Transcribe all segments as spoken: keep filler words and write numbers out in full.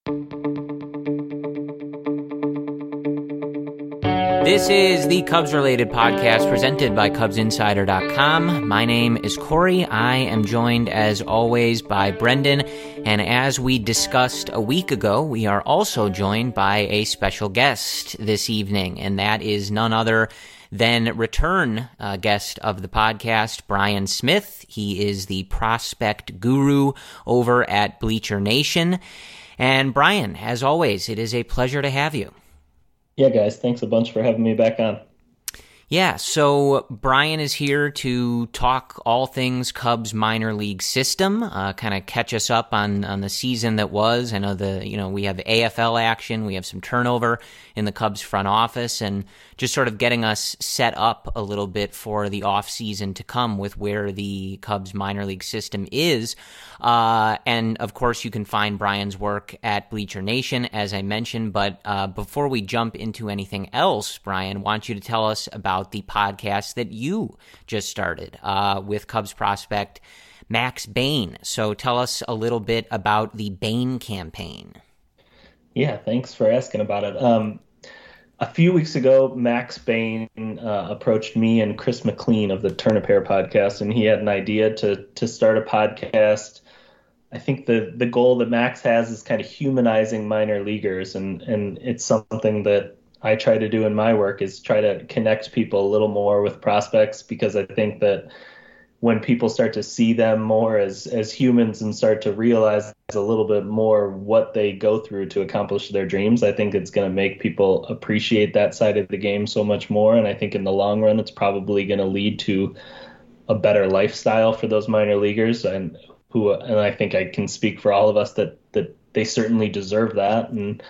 This is the Cubs-related podcast presented by Cubs Insider dot com. My name is Corey. I am joined, as always, by Brendan. And as we discussed a week ago, we are also joined by a special guest this evening, and that is none other than return uh, guest of the podcast, Brian Smith. He is the prospect guru over at Bleacher Nation. And Brian, as always, it is a pleasure to have you. Yeah, guys, thanks a bunch for having me back on. Yeah, so Brian is here to talk all things Cubs minor league system, uh, kind of catch us up on, on the season that was. I know the you know we have A F L action, we have some turnover in the Cubs front office, and just sort of getting us set up a little bit for the off season to come with where the Cubs minor league system is. Uh, and of course, you can find Brian's work at Bleacher Nation, as I mentioned. But uh, before we jump into anything else, Brian, I want you to tell us about the podcast that you just started uh, with Cubs prospect Max Bain. So tell us a little bit about the Bain campaign. Yeah, thanks for asking about it. Um, a few weeks ago, Max Bain uh, approached me and Chris McLean of the Turn a Pair podcast, and he had an idea to to start a podcast. I think the the goal that Max has is kind of humanizing minor leaguers, and and it's something that I try to do in my work, is try to connect people a little more with prospects, because I think that when people start to see them more as as humans and start to realize a little bit more what they go through to accomplish their dreams, I think it's going to make people appreciate that side of the game so much more. And I think in the long run, it's probably going to lead to a better lifestyle for those minor leaguers, and who and I think I can speak for all of us that that they certainly deserve that. And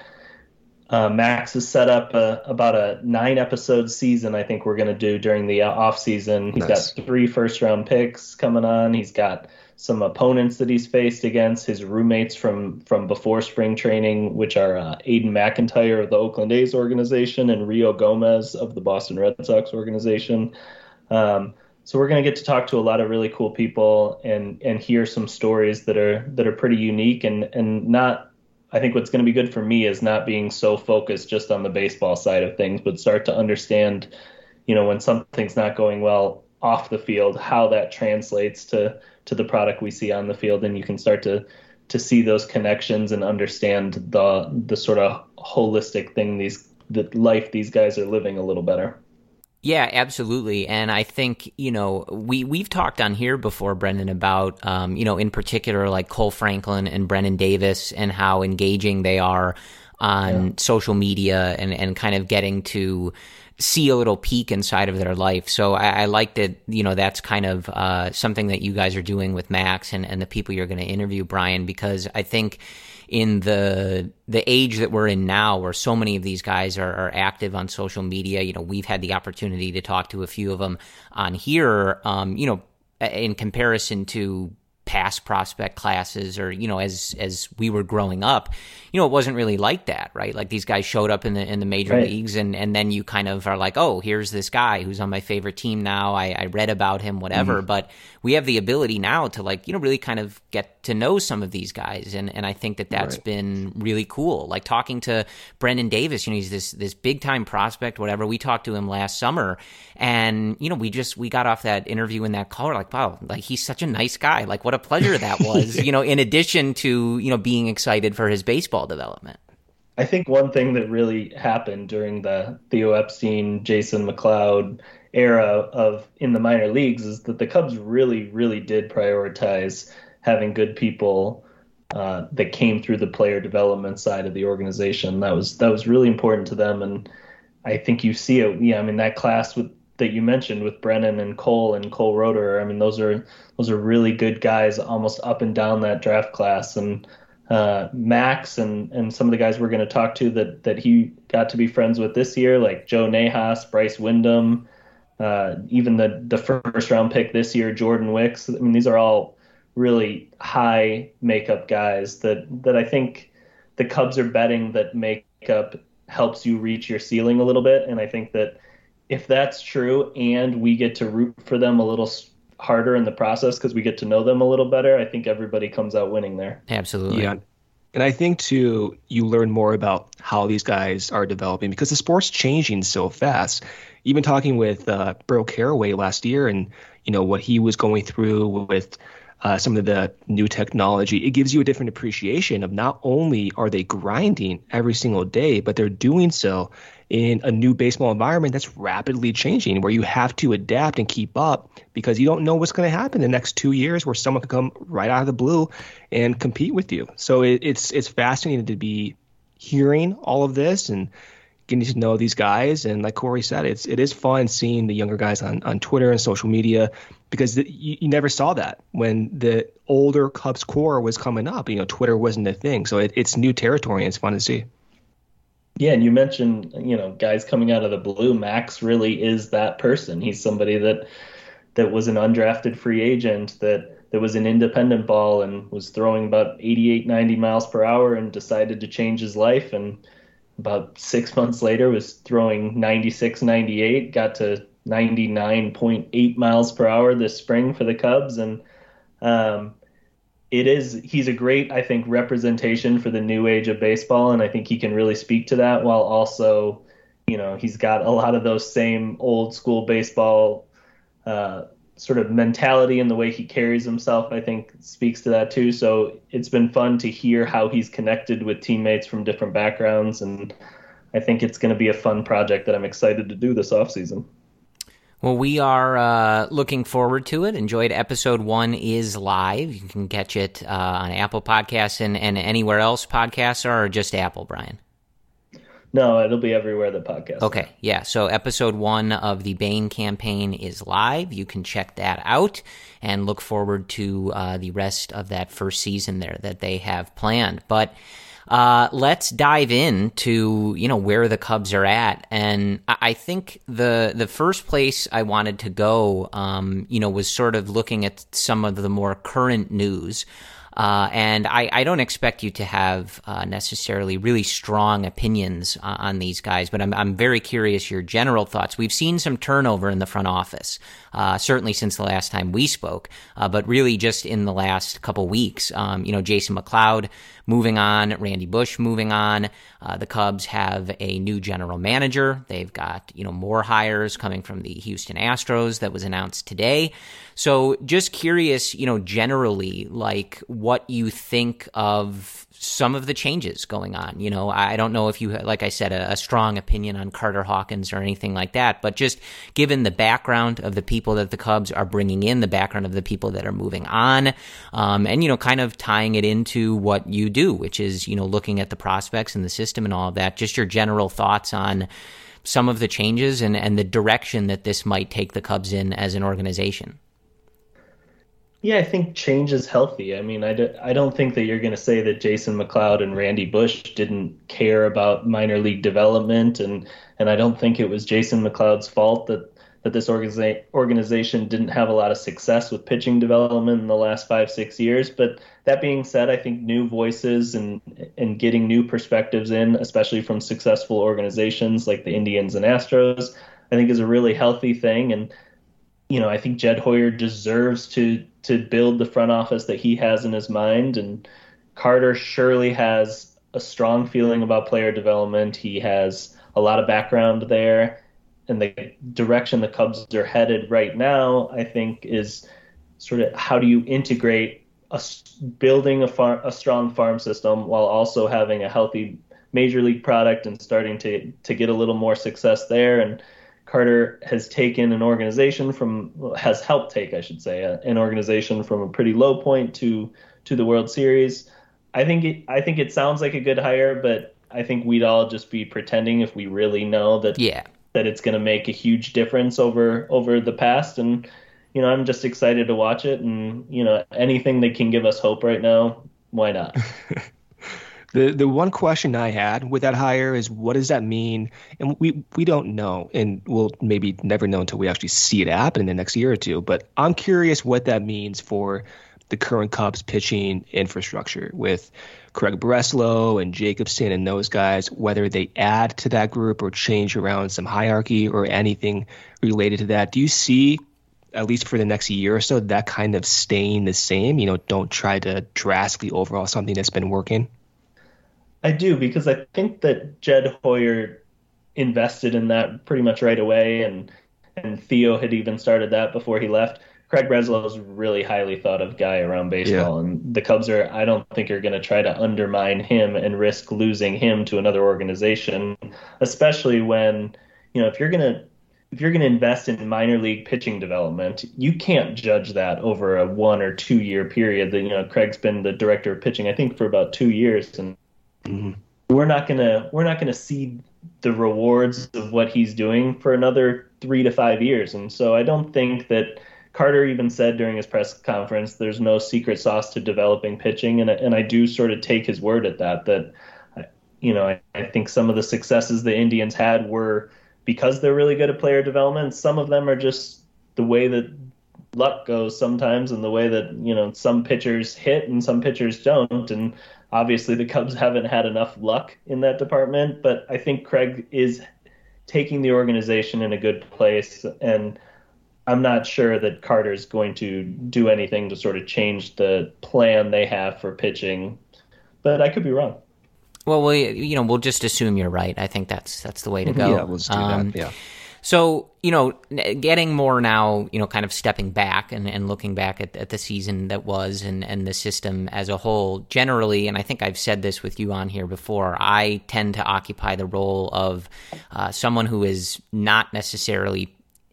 Uh, Max has set up a, about a nine episode season I think we're going to do during the off season. He's nice. got three first round picks coming on. He's got some opponents that he's faced against, his roommates from, from before spring training, which are uh, Aiden McIntyre of the Oakland A's organization and Rio Gomez of the Boston Red Sox organization. Um, so we're going to get to talk to a lot of really cool people and, and hear some stories that are, that are pretty unique and, and not, I think what's going to be good for me is not being so focused just on the baseball side of things, but start to understand, you know, when something's not going well off the field, how that translates to, to the product we see on the field. And you can start to, to see those connections and understand the, the sort of holistic thing, these, the life these guys are living a little better. Yeah, absolutely. And I think, you know, we, we've talked on here before, Brendan, about, um, you know, in particular, like Cole Franklin and Brennan Davis and how engaging they are on yeah. social media and, and kind of getting to see a little peek inside of their life. So I, I like that, you know, that's kind of uh, something that you guys are doing with Max and, and the people you're going to interview, Brian, because I think in the the age that we're in now, where so many of these guys are, are active on social media, you know, we've had the opportunity to talk to a few of them on here, um, you know, in comparison to past prospect classes or, you know, as as we were growing up, you know, it wasn't really like that, right? Like these guys showed up in the in the major right. leagues and, and then you kind of are like, oh, here's this guy who's on my favorite team now. I, I read about him, whatever. Mm-hmm. But we have the ability now to like, you know, really kind of get to know some of these guys. And, and I think that that's right. been really cool. Like talking to Brendan Davis, you know, he's this this big time prospect, whatever. We talked to him last summer and, you know, we just, we got off that interview in that call. We're like, wow, like he's such a nice guy. Like what a pleasure that was, you know, in addition to, you know, being excited for his baseball development. I think one thing that really happened during the Theo Epstein, Jason McLeod era of in the minor leagues is that the Cubs really, really did prioritize having good people uh, that came through the player development side of the organization. That was that was really important to them, and I think you see it. Yeah, I mean that class with that you mentioned with Brennan and Cole and Cole Roeder. I mean those are those are really good guys, almost up and down that draft class, and. Uh, Max and, and some of the guys we're going to talk to that, that he got to be friends with this year, like Joe Nahas, Bryce Wyndham, uh, even the, the first round pick this year, Jordan Wicks. I mean, these are all really high makeup guys that, that I think the Cubs are betting that makeup helps you reach your ceiling a little bit. And I think that if that's true and we get to root for them a little harder in the process because we get to know them a little better, I think everybody comes out winning there. Absolutely. Yeah. And I think, too, you learn more about how these guys are developing because the sport's changing so fast. Even talking with uh, Burl Caraway last year and, you know, what he was going through with uh, some of the new technology, it gives you a different appreciation of not only are they grinding every single day, but they're doing so in a new baseball environment that's rapidly changing, where you have to adapt and keep up because you don't know what's going to happen in the next two years where someone could come right out of the blue and compete with you. So it, it's it's fascinating to be hearing all of this and getting to know these guys. And like Corey said, it's it is fun seeing the younger guys on, on Twitter and social media because the, you, you never saw that when the older Cubs core was coming up. You know, Twitter wasn't a thing. So it, it's new territory and it's fun to see. Yeah, and you mentioned, you know, guys coming out of the blue. Max really is that person. He's somebody that that was an undrafted free agent that that was an independent ball and was throwing about eighty-eight, ninety miles per hour and decided to change his life. And about six months later was throwing ninety-six, ninety-eight, got to ninety-nine point eight miles per hour this spring for the Cubs. And um, it is, he's a great, I think, representation for the new age of baseball. And I think he can really speak to that while also, you know, he's got a lot of those same old school baseball uh, sort of mentality and the way he carries himself, I think speaks to that too. So it's been fun to hear how he's connected with teammates from different backgrounds. And I think it's going to be a fun project that I'm excited to do this offseason. Well, we are uh, looking forward to it. Enjoyed episode one is live. You can catch it uh, on Apple Podcasts and, and anywhere else podcasts are, or just Apple, Brian? No, it'll be everywhere the podcast. Okay, yeah. So episode one of the Bain campaign is live. You can check that out and look forward to uh, the rest of that first season there that they have planned. But Uh, let's dive into, you know, where the Cubs are at. And I think the the first place I wanted to go, um, you know, was sort of looking at some of the more current news. Uh, and I, I don't expect you to have uh, necessarily really strong opinions uh, on these guys, but I'm I'm very curious your general thoughts. We've seen some turnover in the front office, uh, certainly since the last time we spoke, uh, but really just in the last couple weeks. Um, you know, Jason McLeod moving on, Randy Bush moving on. Uh, the Cubs have a new general manager. They've got, you know, more hires coming from the Houston Astros that was announced today. So just curious, you know, generally, like what you think of some of the changes going on. You know, I don't know if you, like I said, a, a strong opinion on Carter Hawkins or anything like that, but just given the background of the people that the Cubs are bringing in, the background of the people that are moving on, um, and, you know, kind of tying it into what you do, which is, you know, looking at the prospects and the system and all of that, just your general thoughts on some of the changes and, and the direction that this might take the Cubs in as an organization. Yeah, I think change is healthy. I mean, I, do, I don't think that you're going to say that Jason McLeod and Randy Bush didn't care about minor league development, and and I don't think it was Jason McLeod's fault that, that this organiza- organization didn't have a lot of success with pitching development in the last five, six years. But that being said, I think new voices and and getting new perspectives in, especially from successful organizations like the Indians and Astros, I think is a really healthy thing. And you know, I think Jed Hoyer deserves to to build the front office that he has in his mind. And Carter surely has a strong feeling about player development. He has a lot of background there. And the direction the Cubs are headed right now, I think, is sort of how do you integrate a, building a, far, a strong farm system while also having a healthy major league product and starting to to get a little more success there. And Carter has taken an organization from, has helped take, I should say, a, an organization from a pretty low point to to the World Series. I think it, I think it sounds like a good hire, but I think we'd all just be pretending if we really know that yeah. that it's going to make a huge difference over over the past. And you know, I'm just excited to watch it. And you know, anything that can give us hope right now, why not? The the one question I had with that hire is, what does that mean? And we, we don't know, and we'll maybe never know until we actually see it happen in the next year or two. But I'm curious what that means for the current Cubs pitching infrastructure with Craig Breslow and Jacobson and those guys, whether they add to that group or change around some hierarchy or anything related to that. Do you see, at least for the next year or so, that kind of staying the same? You know, don't try to drastically overhaul something that's been working. I do, because I think that Jed Hoyer invested in that pretty much right away, and and Theo had even started that before he left. Craig Breslow is a really highly thought of guy around Yeah. baseball, and the Cubs are, I don't think, are going to try to undermine him and risk losing him to another organization, especially when, you know, if you're going to if you're going to invest in minor league pitching development, you can't judge that over a one or two year period. That, you know, Craig's been the director of pitching, I think, for about two years, and Hmm. we're not gonna we're not gonna see the rewards of what he's doing for another three to five years. And so I don't think that Carter even said during his press conference there's no secret sauce to developing pitching, and and I do sort of take his word at that. That you know I, I think some of the successes the Indians had were because they're really good at player development. Some of them are just the way that luck goes sometimes, and the way that, you know, some pitchers hit and some pitchers don't. And obviously the Cubs haven't had enough luck in that department, but I think Craig is taking the organization in a good place, and I'm not sure that Carter's going to do anything to sort of change the plan they have for pitching, but I could be wrong. Well, we, you know, we'll just assume you're right. I think that's that's the way to go. Yeah, let's do Um, that. Yeah. So, you know, getting more now, you know, kind of stepping back and, and looking back at, at the season that was and, and the system as a whole, generally, and I think I've said this with you on here before, I tend to occupy the role of uh, someone who is not necessarily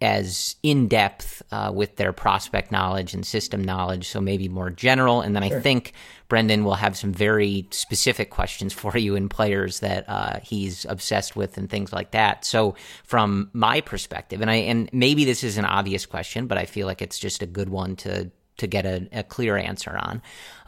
as in-depth uh, with their prospect knowledge and system knowledge, so maybe more general. And then I Sure. think Brendan will have some very specific questions for you in players that uh, he's obsessed with and things like that. So from my perspective, and I and maybe this is an obvious question, but I feel like it's just a good one to to get a, a clear answer on.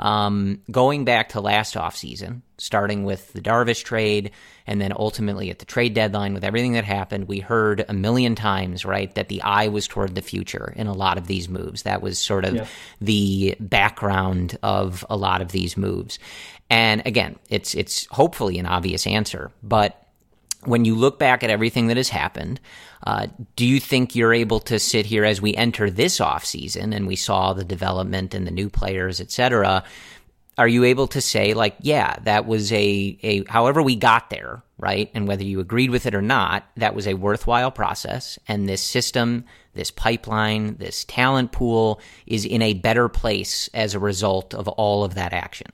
Um, going back to last offseason, starting with the Darvish trade, and then ultimately at the trade deadline with everything that happened, we heard a million times, right, that the eye was toward the future in a lot of these moves. That was sort of Yeah. the background of a lot of these moves. And again, it's it's hopefully an obvious answer, but when you look back at everything that has happened, uh, do you think you're able to sit here as we enter this offseason and we saw the development and the new players, et cetera, are you able to say, like, yeah, that was a, a however we got there, right? And whether you agreed with it or not, that was a worthwhile process. And this system, this pipeline, this talent pool is in a better place as a result of all of that action.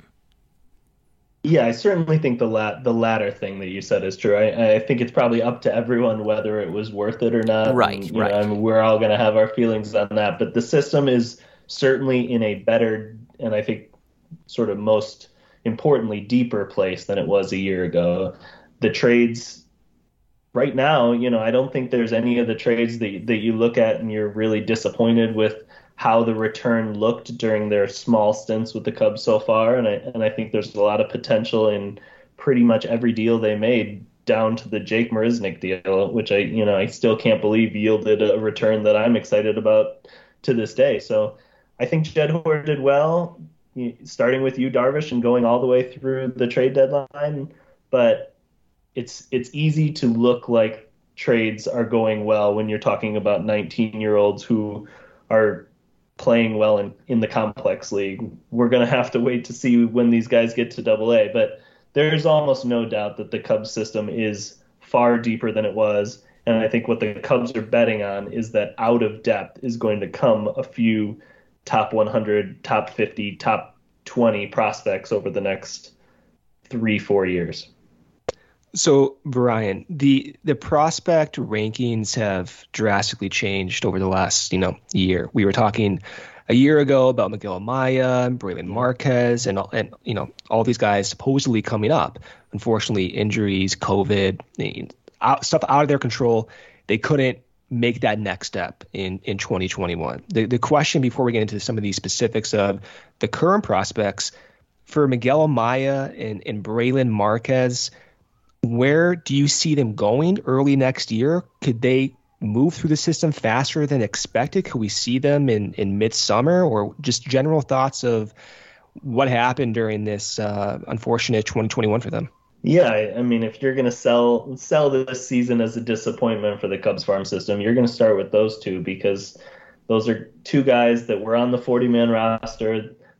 Yeah, I certainly think the lat the latter thing that you said is true. I, I think it's probably up to everyone whether it was worth it or not. Right, And, you right. know, I mean, we're all going to have our feelings on that, but the system is certainly in a better, and I think sort of most importantly, deeper place than it was a year ago. The trades right now, you know, I don't think there's any of the trades that that you look at and you're really disappointed with how the return looked during their small stints with the Cubs so far. And I, and I think there's a lot of potential in pretty much every deal they made, down to the Jake Marisnick deal, which I, you know, I still can't believe yielded a return that I'm excited about to this day. So I think Jed Hoyer did well, starting with you, Darvish, and going all the way through the trade deadline. But it's, it's easy to look like trades are going well when you're talking about nineteen year olds who are playing well in, in the complex league. We're going to have to wait to see when these guys get to double A, but there's almost no doubt that the Cubs system is far deeper than it was. And I think what the Cubs are betting on is that out of depth is going to come a few top one hundred, top fifty, top twenty prospects over the next three, four years. So, Brian, the the prospect rankings have drastically changed over the last, you know, year. We were talking a year ago about Miguel Amaya and Braylon Marquez and, and, you know, all these guys supposedly coming up. Unfortunately, injuries, COVID, out, stuff out of their control. They couldn't make that next step in, in twenty twenty-one. The, the question before we get into some of these specifics of the current prospects, for Miguel Amaya and, and Braylon Marquez, where do you see them going early next year? Could they move through the system faster than expected? Could we see them in, in midsummer, or just general thoughts of what happened during this uh, unfortunate twenty twenty-one for them? Yeah, I mean, if you're going to sell sell this season as a disappointment for the Cubs farm system, you're going to start with those two, because those are two guys that were on the forty-man roster.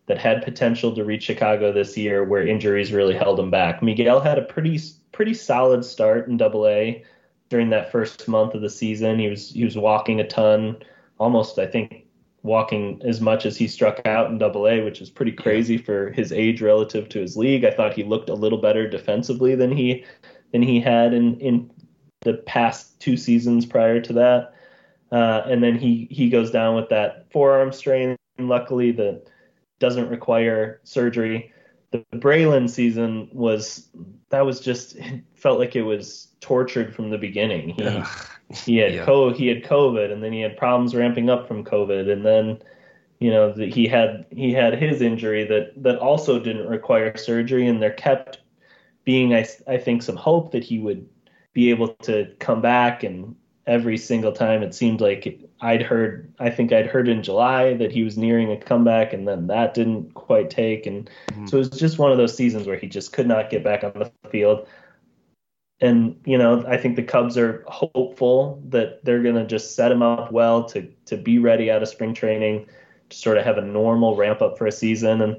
that had potential to reach Chicago this year, where injuries really held him back. Miguel had a pretty pretty solid start in Double A during that first month of the season. He was he was walking a ton, almost I think walking as much as he struck out in Double A, which is pretty crazy for his age relative to his league. I thought he looked a little better defensively than he than he had in in the past two seasons prior to that. Uh, and then he he goes down with that forearm strain. Luckily, that doesn't require surgery. The Braylon season was that was just it felt like it was tortured from the beginning. He Ugh. he had Yeah. co he had COVID, and then he had problems ramping up from COVID, and then you know the, he had he had his injury that that also didn't require surgery, and there kept being I I think some hope that he would be able to come back, and every single time it seemed like I'd heard, I think I'd heard in July that he was nearing a comeback, and then that didn't quite take. And mm-hmm. so it was just one of those seasons where he just could not get back on the field. And, you know, I think the Cubs are hopeful that they're going to just set him up well to, to be ready out of spring training, to sort of have a normal ramp up for a season. And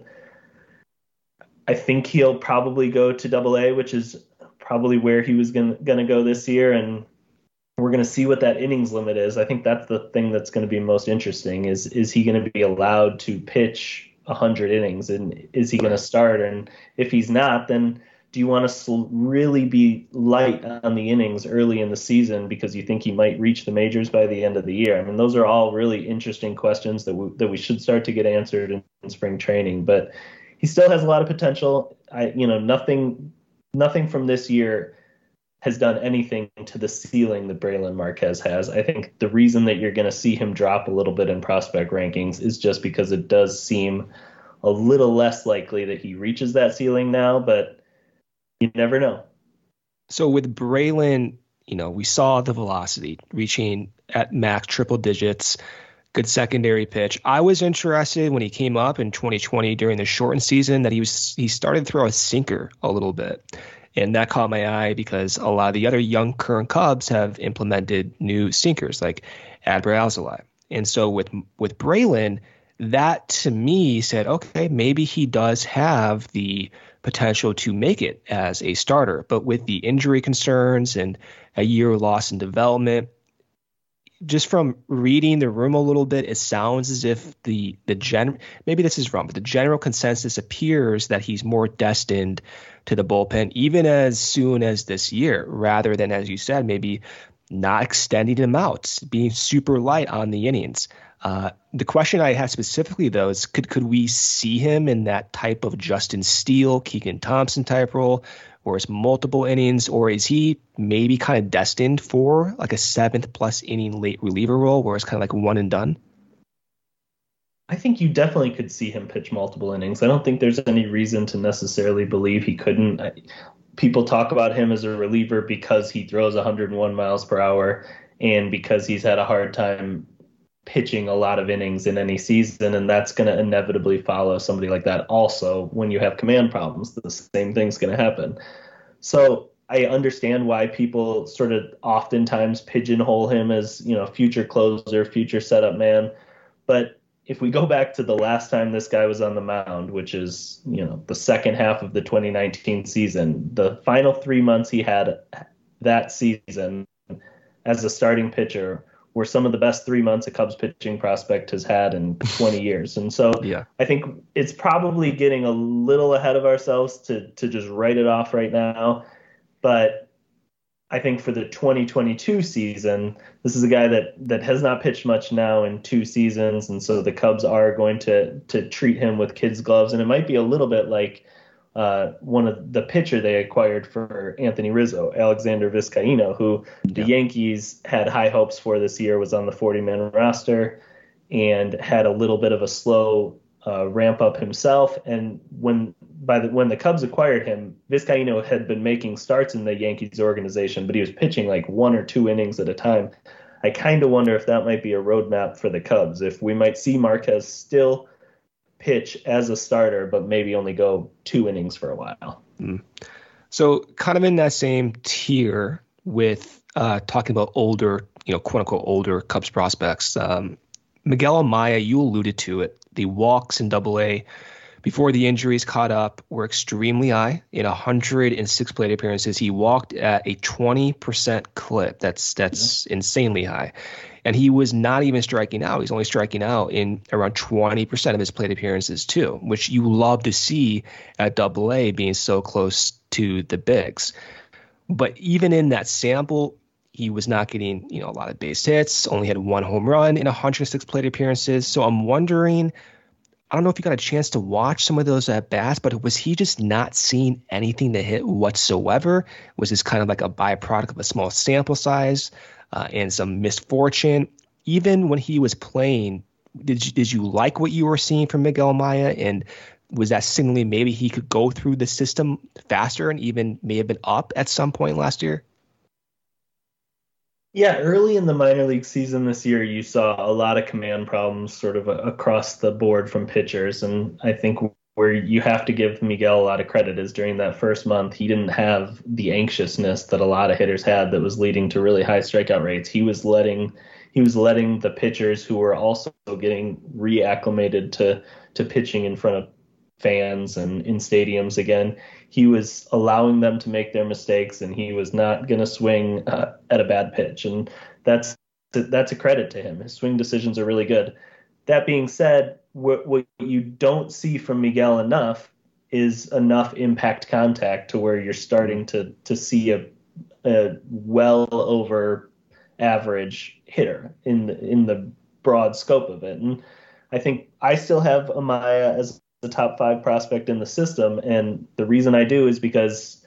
I think he'll probably go to Double A, which is probably where he was going to go this year. And we're going to see what that innings limit is. I think that's the thing that's going to be most interesting is, is he going to be allowed to pitch one hundred innings, and is he going to start? And if he's not, then do you want to really be light on the innings early in the season because you think he might reach the majors by the end of the year? I mean, those are all really interesting questions that we, that we should start to get answered in, in spring training, but he still has a lot of potential. I, you know, nothing, nothing from this year has done anything to the ceiling that Braylon Marquez has. I think the reason that you're going to see him drop a little bit in prospect rankings is just because it does seem a little less likely that he reaches that ceiling now, but you never know. So with Braylon, you know, we saw the velocity reaching at max triple digits, good secondary pitch. I was interested when he came up in twenty twenty during the shortened season that he was he started to throw a sinker a little bit. And that caught my eye because a lot of the other young current Cubs have implemented new sinkers like Adbert Alzolay. And so with with Braylon, that to me said, okay, maybe he does have the potential to make it as a starter. But with the injury concerns and a year lost in development, just from reading the room a little bit, it sounds as if the the gen maybe this is wrong, but the general consensus appears that he's more destined to the bullpen even as soon as this year, rather than, as you said, maybe not extending him out, being super light on the innings. Uh, the question I have specifically, though, is could could we see him in that type of Justin Steele, Keegan Thompson type role, or is multiple innings, or is he maybe kind of destined for like a seventh plus inning late reliever role where it's kind of like one and done? I think you definitely could see him pitch multiple innings. I don't think there's any reason to necessarily believe he couldn't. I, people talk about him as a reliever because he throws one hundred one miles per hour and because he's had a hard time pitching a lot of innings in any season, and that's going to inevitably follow somebody like that. Also, when you have command problems, the same thing's going to happen. So I understand why people sort of oftentimes pigeonhole him as, you know, future closer, future setup man. But if we go back to the last time this guy was on the mound, which is, you know, the second half of the twenty nineteen season, the final three months he had that season as a starting pitcher were some of the best three months a Cubs pitching prospect has had in twenty years. And so yeah. I think it's probably getting a little ahead of ourselves to to just write it off right now. But I think for the twenty twenty-two season, this is a guy that, that has not pitched much now in two seasons. And so the Cubs are going to to treat him with kids' gloves. And it might be a little bit like uh, one of the pitcher they acquired for Anthony Rizzo, Alexander Vizcaino, who the yeah. Yankees had high hopes for this year, was on the forty-man roster and had a little bit of a slow uh, ramp up himself. And when by the when the Cubs acquired him, Vizcaino had been making starts in the Yankees organization, but he was pitching like one or two innings at a time. I kind of wonder if that might be a roadmap for the Cubs, if we might see Marquez still pitch as a starter, but maybe only go two innings for a while. Mm. So kind of in that same tier with uh, talking about older, you know, quote unquote older Cubs prospects, um, Miguel Amaya, you alluded to it, the walks in Double A before the injuries caught up, were extremely high. In one hundred six plate appearances, he walked at a twenty percent clip. That's that's yeah. insanely high. And he was not even striking out. He's only striking out in around twenty percent of his plate appearances too, which you love to see at Double A being so close to the bigs. But even in that sample, he was not getting, you know, a lot of base hits, only had one home run in one hundred six plate appearances. So I'm wondering, I don't know if you got a chance to watch some of those at bats, but was he just not seeing anything to hit whatsoever? Was this kind of like a byproduct of a small sample size uh, and some misfortune? Even when he was playing, did you, did you like what you were seeing from Miguel Amaya? And was that signaling maybe he could go through the system faster and even may have been up at some point last year? Yeah, early in the minor league season this year, you saw a lot of command problems sort of across the board from pitchers. And I think where you have to give Miguel a lot of credit is during that first month, he didn't have the anxiousness that a lot of hitters had that was leading to really high strikeout rates. He was letting he was letting the pitchers who were also getting reacclimated to, to pitching in front of fans and in stadiums again, he was allowing them to make their mistakes, and he was not going to swing uh, at a bad pitch. And that's that's a credit to him. His swing decisions are really good. That being said, what, what you don't see from Miguel enough is enough impact contact to where you're starting to to see a, a well over average hitter in the, in the broad scope of it. And I think I still have Amaya as the top five prospect in the system. And the reason I do is because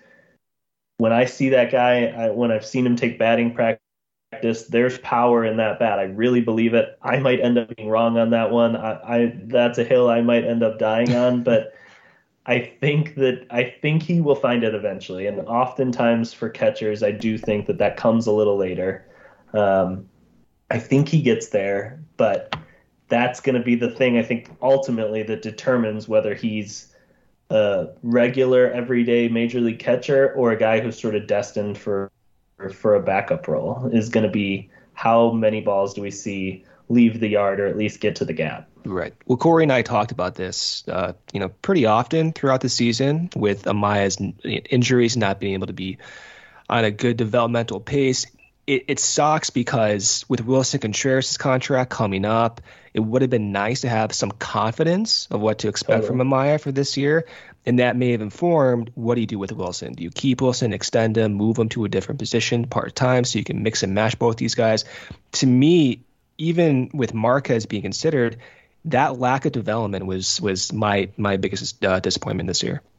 when I see that guy, I, when I've seen him take batting practice, there's power in that bat. I really believe it. I might end up being wrong on that one. I, I that's a hill I might end up dying on, but I think that I think he will find it eventually. And oftentimes for catchers, I do think that that comes a little later. Um, I think he gets there, but that's going to be the thing, I think, ultimately that determines whether he's a regular, everyday major league catcher or a guy who's sort of destined for for a backup role, is going to be how many balls do we see leave the yard or at least get to the gap. Right. Well, Corey and I talked about this, uh, you know, pretty often throughout the season with Amaya's injuries, not being able to be on a good developmental pace. It, it sucks because with Wilson Contreras' contract coming up, it would have been nice to have some confidence of what to expect totally. from Amaya for this year. And that may have informed, what do you do with Wilson? Do you keep Wilson, extend him, move him to a different position part-time so you can mix and match both these guys? To me, even with Marquez being considered, that lack of development was was my, my biggest uh, disappointment this year.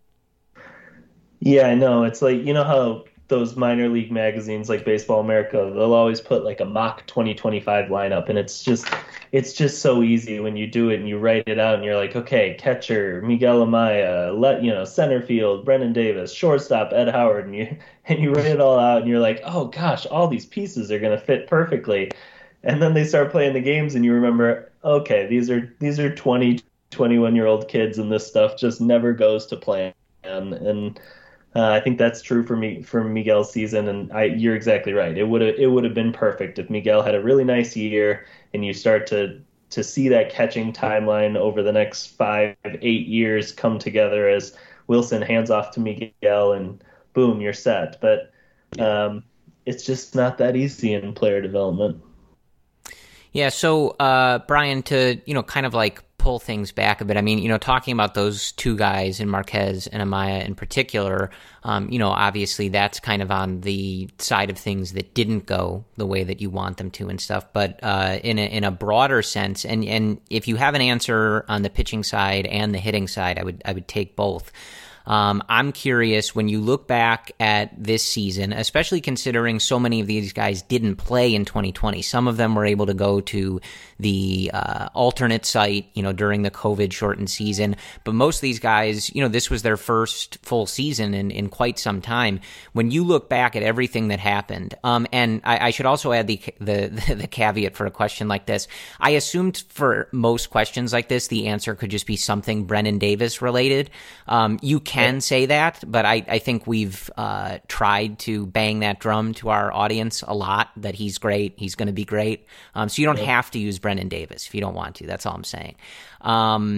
Yeah, I know. It's like, you know how those minor league magazines like Baseball America, they'll always put like a mock twenty twenty-five lineup, and it's just it's just so easy when you do it and you write it out and you're like, okay, catcher Miguel Amaya, let you know, center field Brennan Davis, shortstop Ed Howard, and you and you write it all out and you're like, oh gosh, all these pieces are gonna fit perfectly. And then they start playing the games and you remember, okay, these are these are twenty, twenty-one year old kids, and this stuff just never goes to plan. And, and Uh, I think that's true for me for Miguel's season, and I, you're exactly right. It would have it would have been perfect if Miguel had a really nice year, and you start to to see that catching timeline over the next five, eight years come together as Wilson hands off to Miguel, and boom, you're set. But um, it's just not that easy in player development. Yeah. So, uh, Brian, to you know, kind of like pull things back a bit. I mean, you know, talking about those two guys in Marquez and Amaya in particular, um, you know, obviously that's kind of on the side of things that didn't go the way that you want them to and stuff. But uh, in a, in a broader sense, and and if you have an answer on the pitching side and the hitting side, I would I would take both. Um, I'm curious, when you look back at this season, especially considering so many of these guys didn't play in twenty twenty. Some of them were able to go to the uh, alternate site, you know, during the COVID shortened season. But most of these guys, you know, this was their first full season in, in quite some time. When you look back at everything that happened, um, and I, I should also add the, the the caveat for a question like this. I assumed for most questions like this, the answer could just be something Brennan Davis related. Um, you can can say that, but I, I think we've uh, tried to bang that drum to our audience a lot, that he's great, he's going to be great. Um, so you don't have to use Brennan Davis if you don't want to. That's all I'm saying. Um,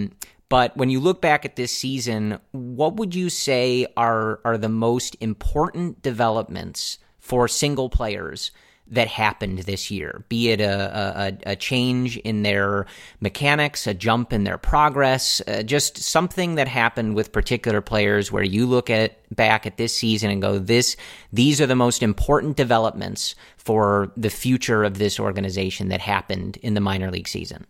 But when you look back at this season, what would you say are are the most important developments for single players that happened this year? Be it a, a, a change in their mechanics, a jump in their progress, uh, just something that happened with particular players where you look at back at this season and go, "This, these are the most important developments for the future of this organization that happened in the minor league season."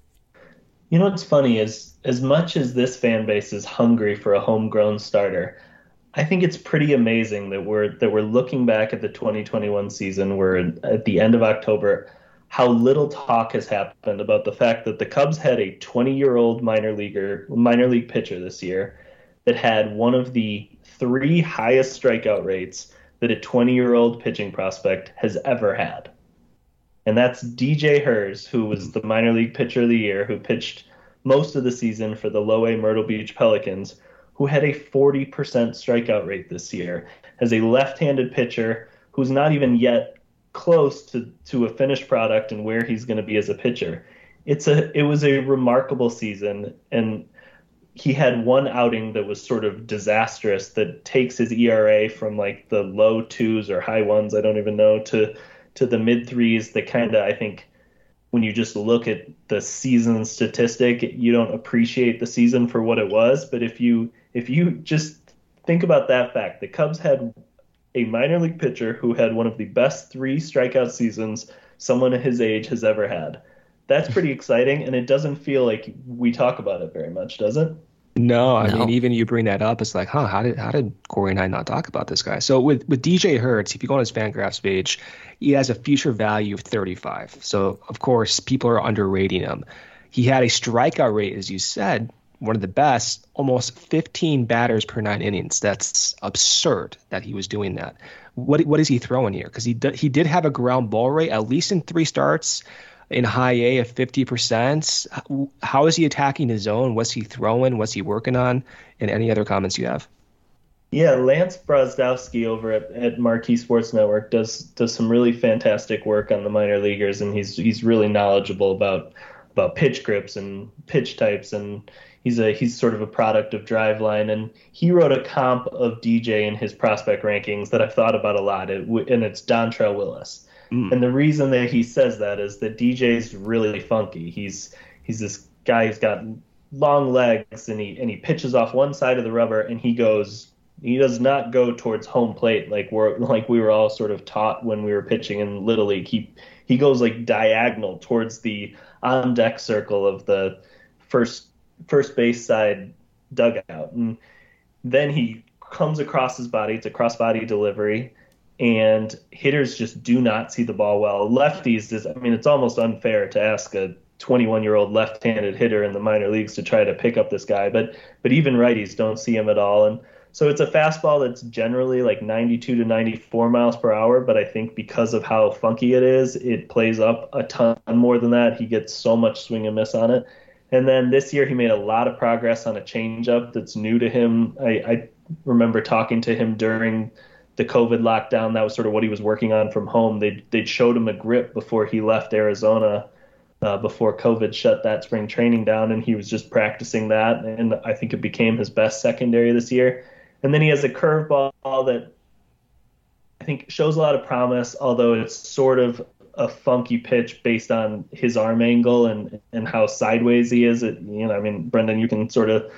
You know what's funny is, as much as this fan base is hungry for a homegrown starter, I think it's pretty amazing that we're that we're looking back at the twenty twenty-one season. We're at the end of October. How little talk has happened about the fact that the Cubs had a twenty-year-old minor leaguer, minor league pitcher this year that had one of the three highest strikeout rates that a twenty-year-old pitching prospect has ever had. And that's D J Herz, who was the minor league pitcher of the year, who pitched most of the season for the Low A Myrtle Beach Pelicans, who had a forty percent strikeout rate this year, as a left-handed pitcher who's not even yet close to, to a finished product and where he's going to be as a pitcher. It's a it was a remarkable season, and he had one outing that was sort of disastrous that takes his E R A from like the low twos or high ones, I don't even know, to to the mid threes. That kind of, I think, when you just look at the season statistic, you don't appreciate the season for what it was. But if you if you just think about that fact, the Cubs had a minor league pitcher who had one of the best three strikeout seasons someone his age has ever had. That's pretty exciting, and it doesn't feel like we talk about it very much, does it? No, I No. mean, even you bring that up, it's like, huh, how did how did Corey and I not talk about this guy? So with, with D J Herz, if you go on his Fangraphs page, he has a future value of thirty-five. So, of course, people are underrating him. He had a strikeout rate, as you said, one of the best, almost fifteen batters per nine innings. That's absurd that he was doing that. What what is he throwing here? Because he, d- he did have a ground ball rate, at least in three starts, in high A of fifty percent. How is he attacking his zone? What's he throwing? What's he working on? And any other comments you have? Yeah, Lance Brozdowski over at, at Marquee Sports Network does does some really fantastic work on the minor leaguers, and he's he's really knowledgeable about about pitch grips and pitch types, and he's a he's sort of a product of Driveline, and he wrote a comp of D J in his prospect rankings that I've thought about a lot, it, and it's Dontrelle Willis. Mm. And the reason that he says that is that D J's really funky. He's he's this guy who's got long legs, and he and he pitches off one side of the rubber, and he goes he does not go towards home plate like we're like we were all sort of taught when we were pitching in Little League. He he goes like diagonal towards the on deck circle of the first first base side dugout, and then he comes across his body. It's a cross body delivery. And hitters just do not see the ball well. Lefties, is, I mean, it's almost unfair to ask a twenty-one-year-old left-handed hitter in the minor leagues to try to pick up this guy, but but even righties don't see him at all. And so it's a fastball that's generally like ninety-two to ninety-four miles per hour, but I think because of how funky it is, it plays up a ton more than that. He gets so much swing and miss on it. And then this year he made a lot of progress on a changeup that's new to him. I, I remember talking to him during the COVID lockdown. That was sort of what he was working on from home. They'd, they'd showed him a grip before he left Arizona, uh, before COVID shut that spring training down, and he was just practicing that, and I think it became his best secondary this year. And then he has a curveball that I think shows a lot of promise, although it's sort of a funky pitch based on his arm angle and, and how sideways he is. It, you know, I mean, Brendan, you can sort of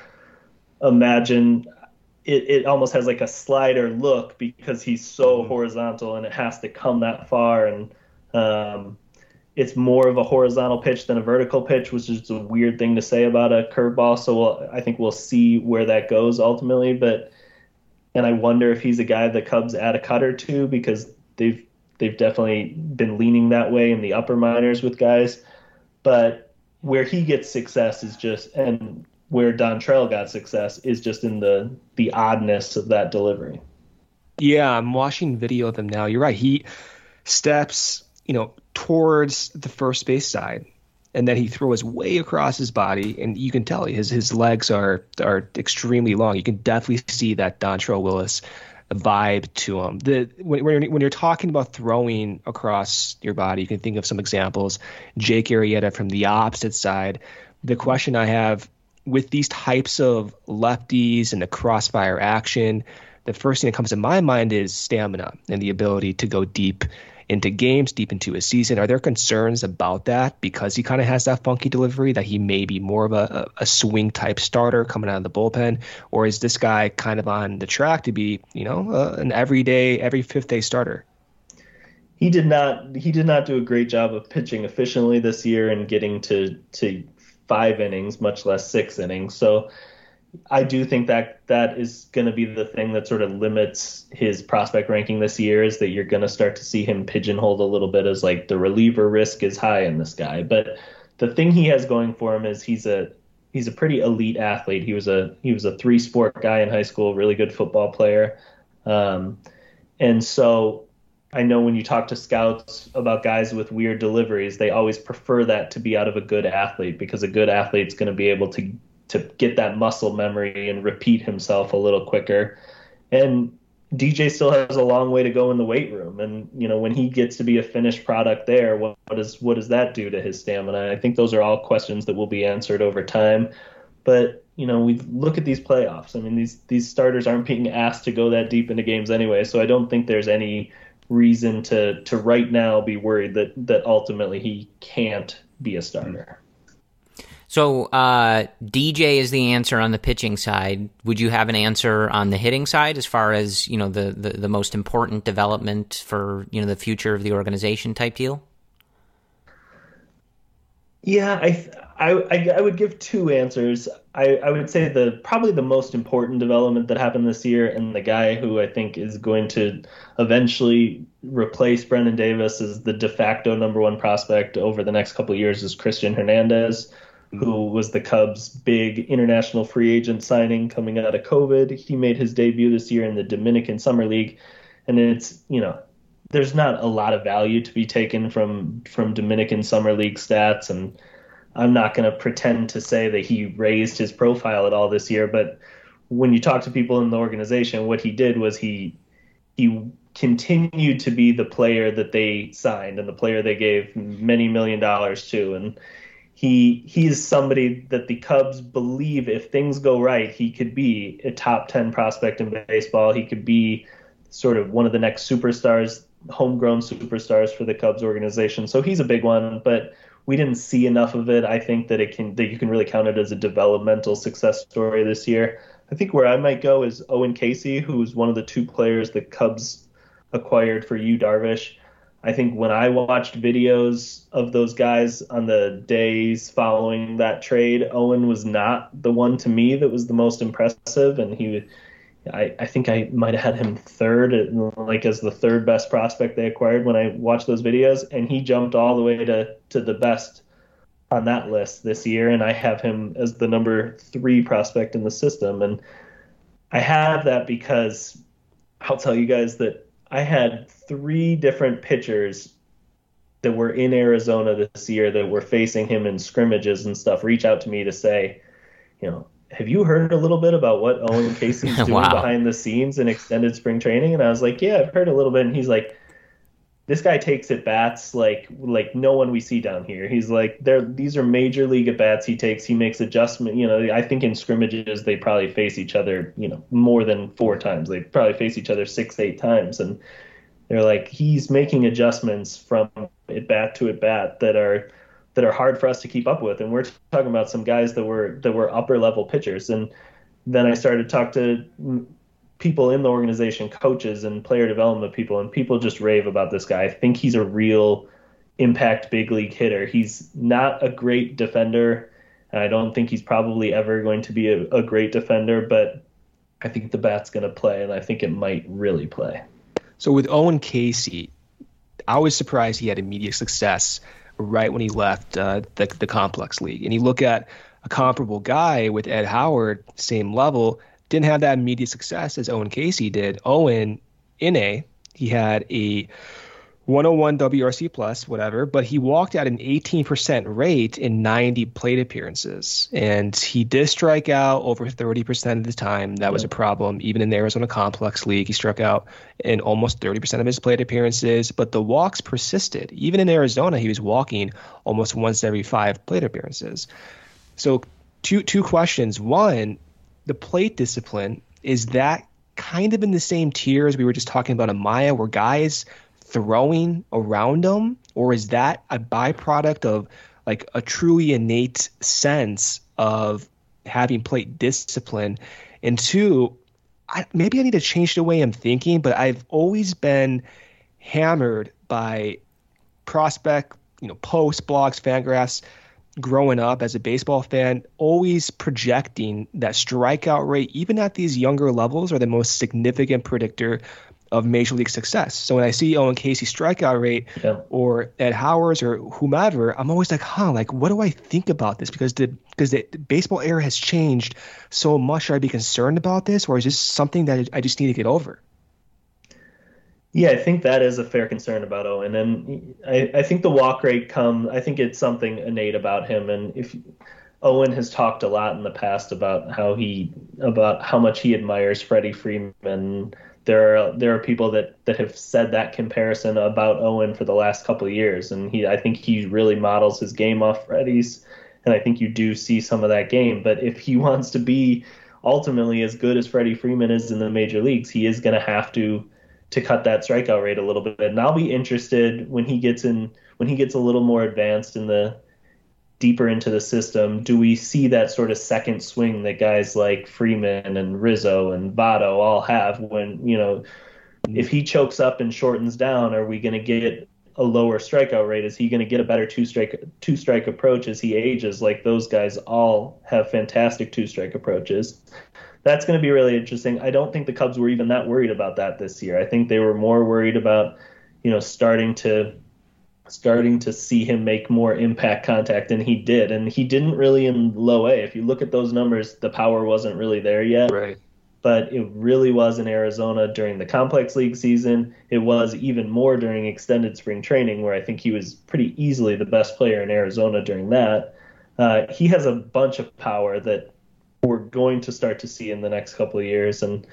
imagine It, it almost has like a slider look because he's so mm-hmm. horizontal, and it has to come that far. And um, it's more of a horizontal pitch than a vertical pitch, which is a weird thing to say about a curveball. So we'll, I think we'll see where that goes ultimately. But and I wonder if he's a guy the Cubs add a cutter to, because they've they've definitely been leaning that way in the upper minors with guys. But where he gets success is just and. where Dontrelle got success is just in the the oddness of that delivery. Yeah, I'm watching video of him now. You're right. He steps, you know, towards the first base side, and then he throws way across his body, and you can tell his his legs are are extremely long. You can definitely see that Dontrelle Willis vibe to him. The when when you're talking about throwing across your body, you can think of some examples. Jake Arrieta from the opposite side. The question I have with these types of lefties and the crossfire action, the first thing that comes to my mind is stamina and the ability to go deep into games, deep into a season. Are there concerns about that because he kind of has that funky delivery, that he may be more of a, a swing type starter coming out of the bullpen? Or is this guy kind of on the track to be, you know, uh, an everyday, every fifth day starter? He did not he did not do a great job of pitching efficiently this year and getting to, to five innings, much less six innings. So I do think that that is going to be the thing that sort of limits his prospect ranking this year, is that you're going to start to see him pigeonholed a little bit as like the reliever risk is high in this guy. But the thing he has going for him is he's a he's a pretty elite athlete. He was a he was a three sport guy in high school, really good football player. Um, and so I know when you talk to scouts about guys with weird deliveries, they always prefer that to be out of a good athlete, because a good athlete's going to be able to to get that muscle memory and repeat himself a little quicker. And D J still has a long way to go in the weight room. And, you know, when he gets to be a finished product there, what, what, is, what does that do to his stamina? I think those are all questions that will be answered over time. But, you know, we look at these playoffs. I mean, these, these starters aren't being asked to go that deep into games anyway. So I don't think there's any reason to, to right now be worried that, that ultimately he can't be a starter. So uh, D J is the answer on the pitching side. Would you have an answer on the hitting side as far as, you know, the, the, the most important development for, you know, the future of the organization type deal? Yeah, I I, I would give two answers. I, I would say the probably the most important development that happened this year, and the guy who I think is going to eventually replace Brennen Davis as the de facto number one prospect over the next couple of years, is Christian Hernandez, who was the Cubs' big international free agent signing coming out of COVID. He made his debut this year in the Dominican Summer League. And it's, you know, there's not a lot of value to be taken from, from Dominican Summer League stats. And I'm not going to pretend to say that he raised his profile at all this year. But when you talk to people in the organization, what he did was he, he continued to be the player that they signed and the player they gave many million dollars to. And He he is somebody that the Cubs believe, if things go right, he could be a top ten prospect in baseball. He could be sort of one of the next superstars, homegrown superstars for the Cubs organization. So he's a big one, but we didn't see enough of it. I think that it can that you can really count it as a developmental success story this year. I think where I might go is Owen Casey, who's one of the two players the Cubs acquired for Yu Darvish. I think when I watched videos of those guys on the days following that trade, Owen was not the one to me that was the most impressive. And he, I, I think I might have had him third, like as the third best prospect they acquired when I watched those videos. And he jumped all the way to, to the best on that list this year. And I have him as the number three prospect in the system. And I have that because I'll tell you guys that I had three different pitchers that were in Arizona this year that were facing him in scrimmages and stuff reach out to me to say, you know, have you heard a little bit about what Owen Casey's doing Wow. behind the scenes in extended spring training? And I was like, yeah, I've heard a little bit. And he's like, this guy takes at bats like like no one we see down here. He's like, they're these are major league at bats he takes. He makes adjustment. You know, I think in scrimmages they probably face each other, you know, more than four times. They probably face each other six, eight times, and they're like, he's making adjustments from at bat to at bat that are that are hard for us to keep up with. And we're talking about some guys that were that were upper level pitchers. And then I started to talk to people in the organization, coaches and player development people, and people just rave about this guy. I think he's a real impact big league hitter. He's not a great defender, and I don't think he's probably ever going to be a, a great defender, but I think the bat's going to play, and I think it might really play. So with Owen Casey, I was surprised he had immediate success right when he left uh, the, the complex league. And you look at a comparable guy with Ed Howard, same level, didn't have that immediate success as Owen Casey did. Owen, in A, he had a one oh one W R C plus, whatever, but he walked at an eighteen percent rate in ninety plate appearances. And he did strike out over thirty percent of the time. That was a problem. Even in the Arizona Complex League, he struck out in almost thirty percent of his plate appearances, but the walks persisted. Even in Arizona, he was walking almost once every five plate appearances. So two two questions. One, the plate discipline, is that kind of in the same tier as we were just talking about Amaya, where guys throwing around them, or is that a byproduct of like a truly innate sense of having plate discipline? And two, I, maybe I need to change the way I'm thinking, but I've always been hammered by prospect, you know, posts, blogs, Fangraphs, growing up as a baseball fan, always projecting that strikeout rate, even at these younger levels, are the most significant predictor of major league success. So when I see Owen Casey's strikeout rate, yeah, or Ed Howard's or whomever, I'm always like, huh, like, what do I think about this? Because the because the baseball era has changed so much. Should I be concerned about this, or is this something that I just need to get over? Yeah, I think that is a fair concern about Owen, and I, I think the walk rate comes. I think it's something innate about him, and if Owen has talked a lot in the past about how he about how much he admires Freddie Freeman. There are there are people that, that have said that comparison about Owen for the last couple of years, and he I think he really models his game off Freddie's, and I think you do see some of that game. But if he wants to be ultimately as good as Freddie Freeman is in the major leagues, he is going to have to. to cut that strikeout rate a little bit. And I'll be interested when he gets in, when he gets a little more advanced in the deeper into the system, do we see that sort of second swing that guys like Freeman and Rizzo and Votto all have when, you know, if he chokes up and shortens down, are we going to get a lower strikeout rate? Is he going to get a better two strike, two strike approach as he ages? Like those guys all have fantastic two strike approaches. That's going to be really interesting. I don't think the Cubs were even that worried about that this year. I think they were more worried about, you know, starting to starting to see him make more impact contact than he did. And he didn't really in low A. If you look at those numbers, the power wasn't really there yet. Right. But it really was in Arizona during the complex league season. It was even more during extended spring training, where I think he was pretty easily the best player in Arizona during that. Uh, he has a bunch of power that we're going to start to see in the next couple of years. And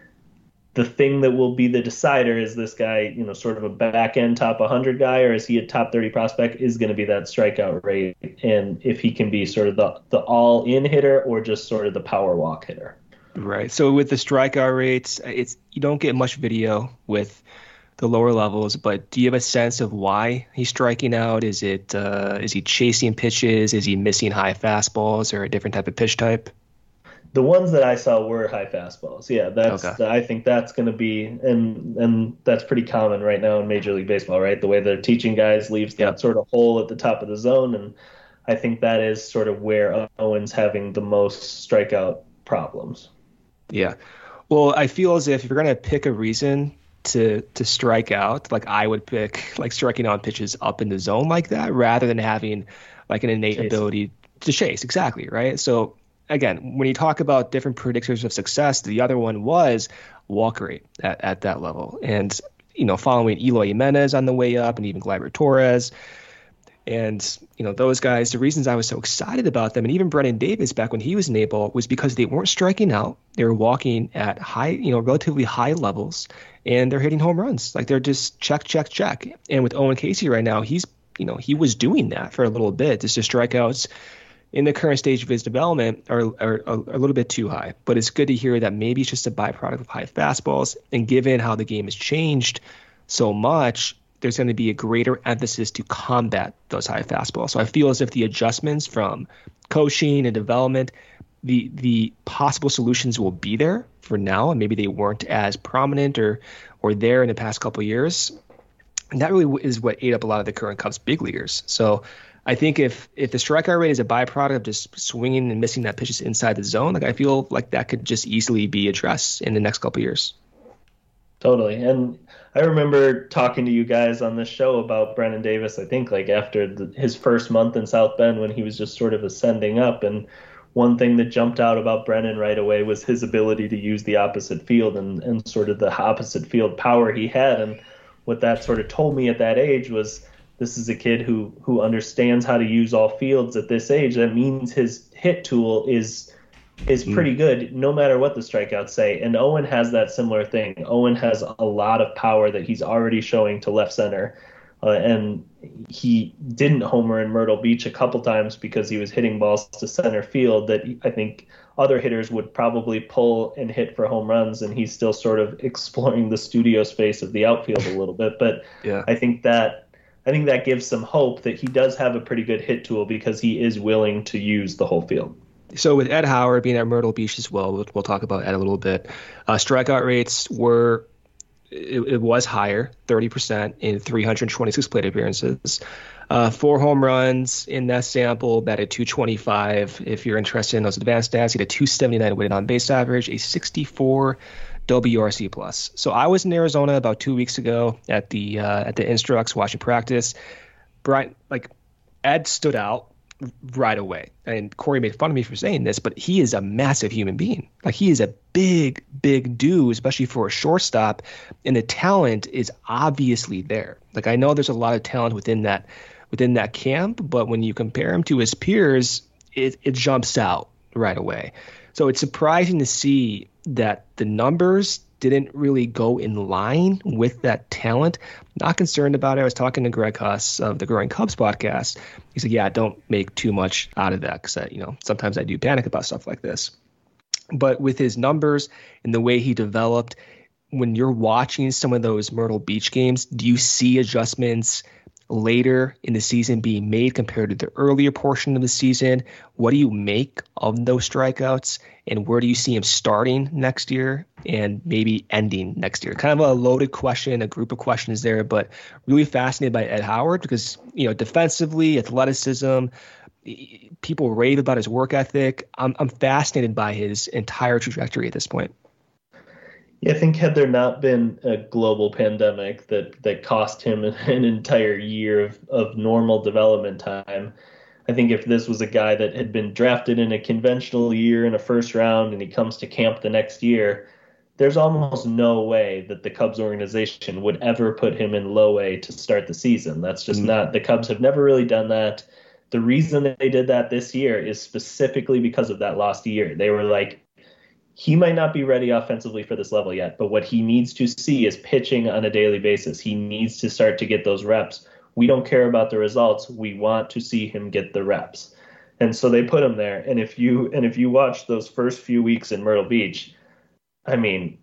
the thing that will be the decider is this guy, you know, sort of a back end top one hundred guy, or is he a top thirty prospect, is going to be that strikeout rate. And if he can be sort of the, the all in hitter or just sort of the power walk hitter. Right. So with the strikeout rates, it's, you don't get much video with the lower levels, but do you have a sense of why he's striking out? Is it, uh, is he chasing pitches? Is he missing high fastballs or a different type of pitch type? The ones that I saw were high fastballs. Yeah, that's okay. I think that's going to be, and and that's pretty common right now in Major League Baseball, right? The way they're teaching guys leaves that yep. sort of hole at the top of the zone, and I think that is sort of where Owen's having the most strikeout problems. Yeah. Well, I feel as if if you're going to pick a reason to to strike out, like I would pick like striking out pitches up in the zone like that, rather than having like an innate chase. ability to chase. Exactly, right? So again, when you talk about different predictors of success, the other one was walk rate at, at that level. And, you know, following Eloy Jimenez on the way up and even Gleyber Torres and, you know, those guys, the reasons I was so excited about them and even Brennen Davis back when he was in A-ball was because they weren't striking out. They were walking at high, you know, relatively high levels, and they're hitting home runs. Like they're just check, check, check. And with Owen Casey right now, he's, you know, he was doing that for a little bit. It's just strikeouts in the current stage of his development are, are, are a little bit too high. But it's good to hear that maybe it's just a byproduct of high fastballs. And given how the game has changed so much, there's going to be a greater emphasis to combat those high fastballs. So I feel as if the adjustments from coaching and development, the the possible solutions will be there for now, and maybe they weren't as prominent or or there in the past couple of years. And that really is what ate up a lot of the current Cubs big leaguers. So I think if if the strikeout rate is a byproduct of just swinging and missing that pitches inside the zone, like I feel like that could just easily be addressed in the next couple of years. Totally. And I remember talking to you guys on this show about Brennen Davis, I think like after the, his first month in South Bend when he was just sort of ascending up. And one thing that jumped out about Brennen right away was his ability to use the opposite field and, and sort of the opposite field power he had. And what that sort of told me at that age was, this is a kid who who understands how to use all fields at this age. That means his hit tool is is pretty good no matter what the strikeouts say. And Owen has that similar thing. Owen has a lot of power that he's already showing to left center. Uh, and he didn't homer in Myrtle Beach a couple times because he was hitting balls to center field that I think other hitters would probably pull and hit for home runs, and he's still sort of exploring the studio space of the outfield a little bit. But yeah. I think that I think that gives some hope that he does have a pretty good hit tool because he is willing to use the whole field. So with Ed Howard being at Myrtle Beach as well, we'll, we'll talk about Ed a little bit. Uh, strikeout rates were it, it was higher, thirty percent in three hundred twenty-six plate appearances. Uh, four home runs in that sample, batted two twenty-five. If you're interested in those advanced stats, he had a two seventy-nine weighted on base average, a sixty-four W R C plus. So I was in Arizona about two weeks ago at the uh, at the Instructs watching practice. Brian, like Ed stood out right away. And Corey made fun of me for saying this, but he is a massive human being. Like he is a big, big dude, especially for a shortstop. And the talent is obviously there. Like I know there's a lot of talent within that within that camp, but when you compare him to his peers, it, it jumps out right away. So it's surprising to see that the numbers didn't really go in line with that talent. Not concerned about it. I was talking to Greg Huss of the Growing Cubs podcast. He said, yeah, don't make too much out of that because, you know, sometimes I do panic about stuff like this. But with his numbers and the way he developed, when you're watching some of those Myrtle Beach games, do you see adjustments later in the season being made compared to the earlier portion of the season? What do you make of those strikeouts, and where do you see him starting next year and maybe ending next year? Kind of a loaded question, a group of questions there, but really fascinated by Ed Howard because, you know, defensively, athleticism, people rave about his work ethic. I'm, I'm fascinated by his entire trajectory at this point. Yeah, I think had there not been a global pandemic that, that cost him an entire year of, of normal development time, I think if this was a guy that had been drafted in a conventional year in a first round and he comes to camp the next year, there's almost no way that the Cubs organization would ever put him in low A to start the season. That's just mm-hmm. not, the Cubs have never really done that. The reason that they did that this year is specifically because of that lost year. They were like, he might not be ready offensively for this level yet, but what he needs to see is pitching on a daily basis. He needs to start to get those reps. We don't care about the results. We want to see him get the reps. And so they put him there. And if you and if you watch those first few weeks in Myrtle Beach, I mean,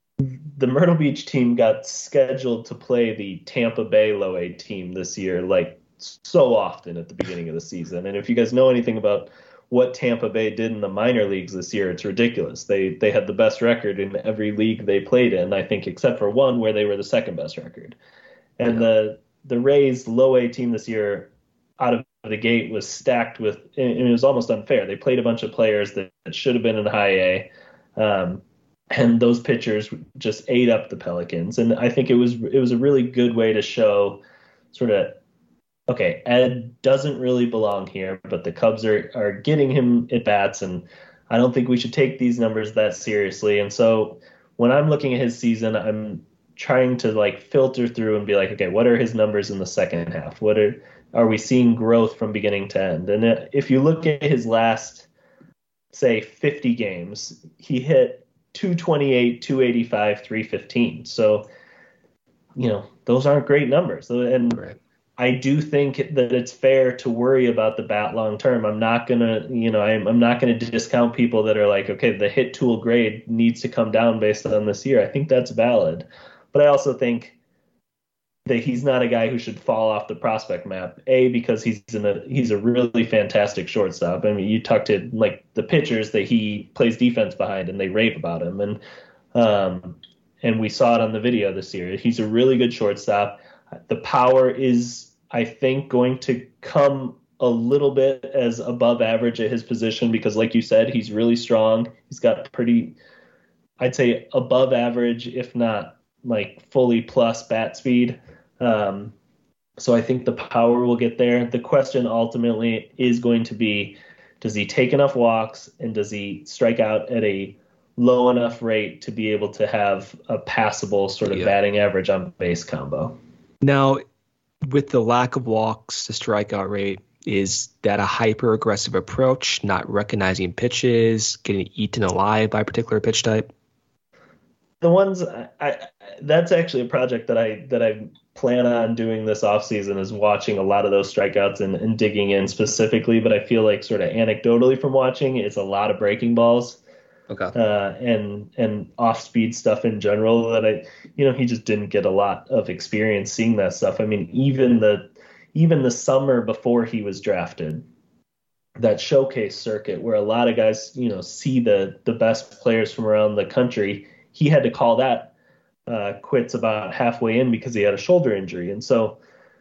the Myrtle Beach team got scheduled to play the Tampa Bay low A team this year, like so often at the beginning of the season. And if you guys know anything about what Tampa Bay did in the minor leagues this year, it's ridiculous. They they had the best record in every league they played in, I think, except for one where they were the second best record. And yeah. the the Rays low A team this year out of the gate was stacked with, and it was almost unfair. They played a bunch of players that, that should have been in high A, um, and those pitchers just ate up the Pelicans. And I think it was it was a really good way to show sort of, okay, Ed doesn't really belong here, but the Cubs are, are getting him at bats, and I don't think we should take these numbers that seriously. And so when I'm looking at his season, I'm trying to like filter through and be like, okay, what are his numbers in the second half? What are are we seeing growth from beginning to end? And if you look at his last, say, fifty games, he hit two twenty-eight, two eighty-five, three fifteen. So, you know, those aren't great numbers. And right. I do think that it's fair to worry about the bat long term. I'm not going to, you know, I'm, I'm not going to discount people that are like, okay, the hit tool grade needs to come down based on this year. I think that's valid. But I also think that he's not a guy who should fall off the prospect map. A, because he's in a he's a really fantastic shortstop. I mean, you talk to like the pitchers that he plays defense behind, and they rave about him. And um, and we saw it on the video this year. He's a really good shortstop. The power is, I think, going to come a little bit as above average at his position because, like you said, he's really strong. He's got pretty, I'd say, above average, if not like fully plus bat speed. Um, so I think the power will get there. The question ultimately is going to be, does he take enough walks and does he strike out at a low enough rate to be able to have a passable sort of yeah. batting average on base combo? Now, with the lack of walks, the strikeout rate, is that a hyper aggressive approach, not recognizing pitches, getting eaten alive by a particular pitch type? The ones I, I that's actually a project that I that I plan on doing this offseason is watching a lot of those strikeouts and, and digging in specifically, but I feel like sort of anecdotally from watching, it's a lot of breaking balls. Okay. Uh, and and off-speed stuff in general that I, you know, he just didn't get a lot of experience seeing that stuff. I mean, even the even the summer before he was drafted, that showcase circuit where a lot of guys, you know, see the the best players from around the country, he had to call that uh, quits about halfway in because he had a shoulder injury. And so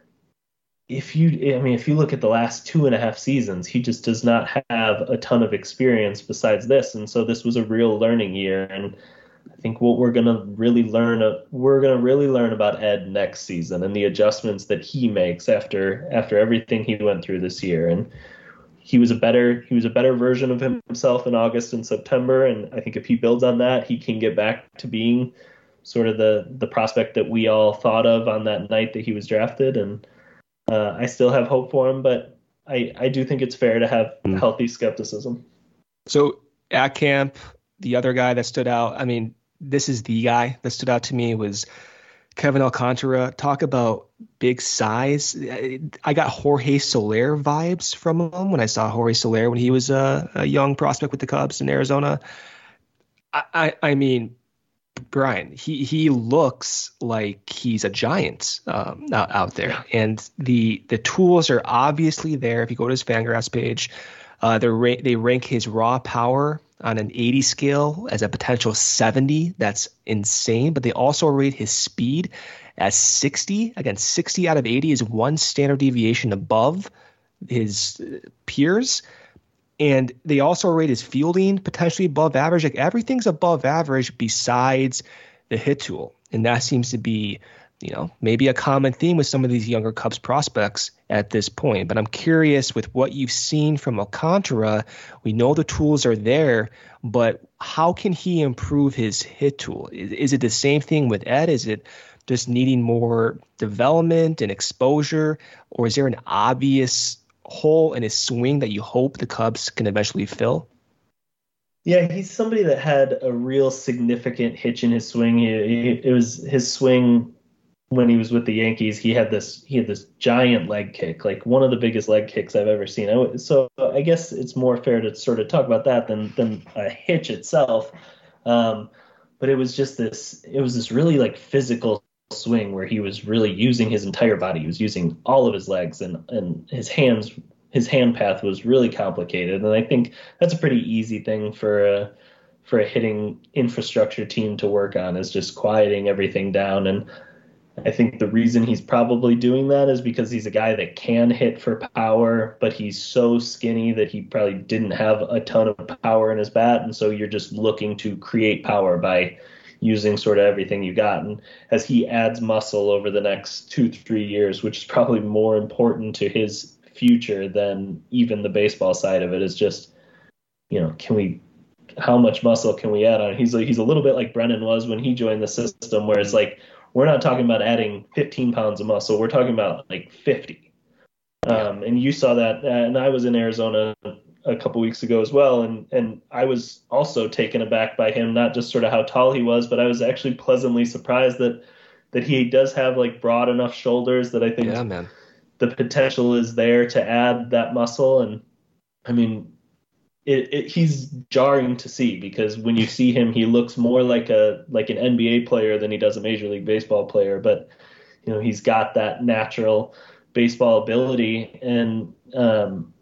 if you, I mean, if you look at the last two and a half seasons, he just does not have a ton of experience besides this. And so this was a real learning year. And I think what we're going to really learn, uh, we're going to really learn about Ed next season and the adjustments that he makes after, after everything he went through this year. And he was a better, he was a better version of himself in August and September. And I think if he builds on that, he can get back to being sort of the, the prospect that we all thought of on that night that he was drafted. And, Uh, I still have hope for him, but I, I do think it's fair to have healthy skepticism. So at camp, the other guy that stood out, I mean, this is the guy that stood out to me was Kevin Alcantara. Talk about big size. I got Jorge Soler vibes from him when I saw Jorge Soler when he was a, a young prospect with the Cubs in Arizona. I, I, I mean, Brian, he, he looks like he's a giant um, out, out there. And the the tools are obviously there. If you go to his Fangraphs page, uh, ra- they rank his raw power on an eighty scale as a potential seventy. That's insane. But they also rate his speed as sixty. Again, sixty out of eighty is one standard deviation above his peers. And they also rate his fielding potentially above average. Like everything's above average besides the hit tool. And that seems to be, you know, maybe a common theme with some of these younger Cubs prospects at this point. But I'm curious with what you've seen from Alcantara. We know the tools are there, but how can he improve his hit tool? Is, is it the same thing with Ed? Is it just needing more development and exposure? Or is there an obvious hole in his swing that you hope the Cubs can eventually fill? Yeah, he's somebody that had a real significant hitch in his swing. He, he, it was his swing when he was with the Yankees. He had this he had this giant leg kick, like one of the biggest leg kicks I've ever seen. I, so I guess it's more fair to sort of talk about that than than a hitch itself. Um, but it was just this it was this really like physical swing where he was really using his entire body. He was using all of his legs, and and his hands his hand path was really complicated. And I think that's a pretty easy thing for a for a hitting infrastructure team to work on, is just quieting everything down. And I think the reason he's probably doing that is because he's a guy that can hit for power, but he's so skinny that he probably didn't have a ton of power in his bat. And so you're just looking to create power by using sort of everything you got. And as he adds muscle over the next two, three years, which is probably more important to his future than even the baseball side of it, is just, you know, can we, how much muscle can we add on? He's like, he's a little bit like Brennan was when he joined the system, where it's like, we're not talking about adding fifteen pounds of muscle. We're talking about like fifty. Um, and you saw that. And I was in Arizona a couple weeks ago as well. And, and I was also taken aback by him, not just sort of how tall he was, but I was actually pleasantly surprised that, that he does have like broad enough shoulders that I think yeah, man. the potential is there to add that muscle. And I mean, It, it, he's jarring to see, because when you see him, he looks more like a like an N B A player than he does a Major League Baseball player. But you know, he's got that natural baseball ability, and um,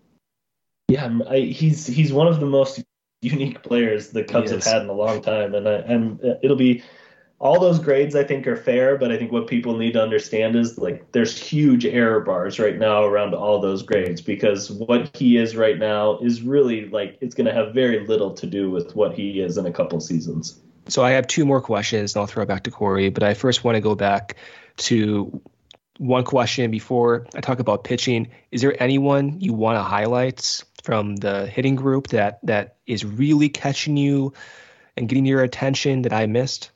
yeah, I, he's he's one of the most unique players the Cubs have had in a long time. And I, I'm it'll be. All those grades I think are fair, but I think what people need to understand is like there's huge error bars right now around all those grades, because what he is right now is really like it's going to have very little to do with what he is in a couple seasons. So I have two more questions, and I'll throw it back to Corey. But I first want to go back to one question before I talk about pitching. Is there anyone you want to highlight from the hitting group that that is really catching you and getting your attention that I missed?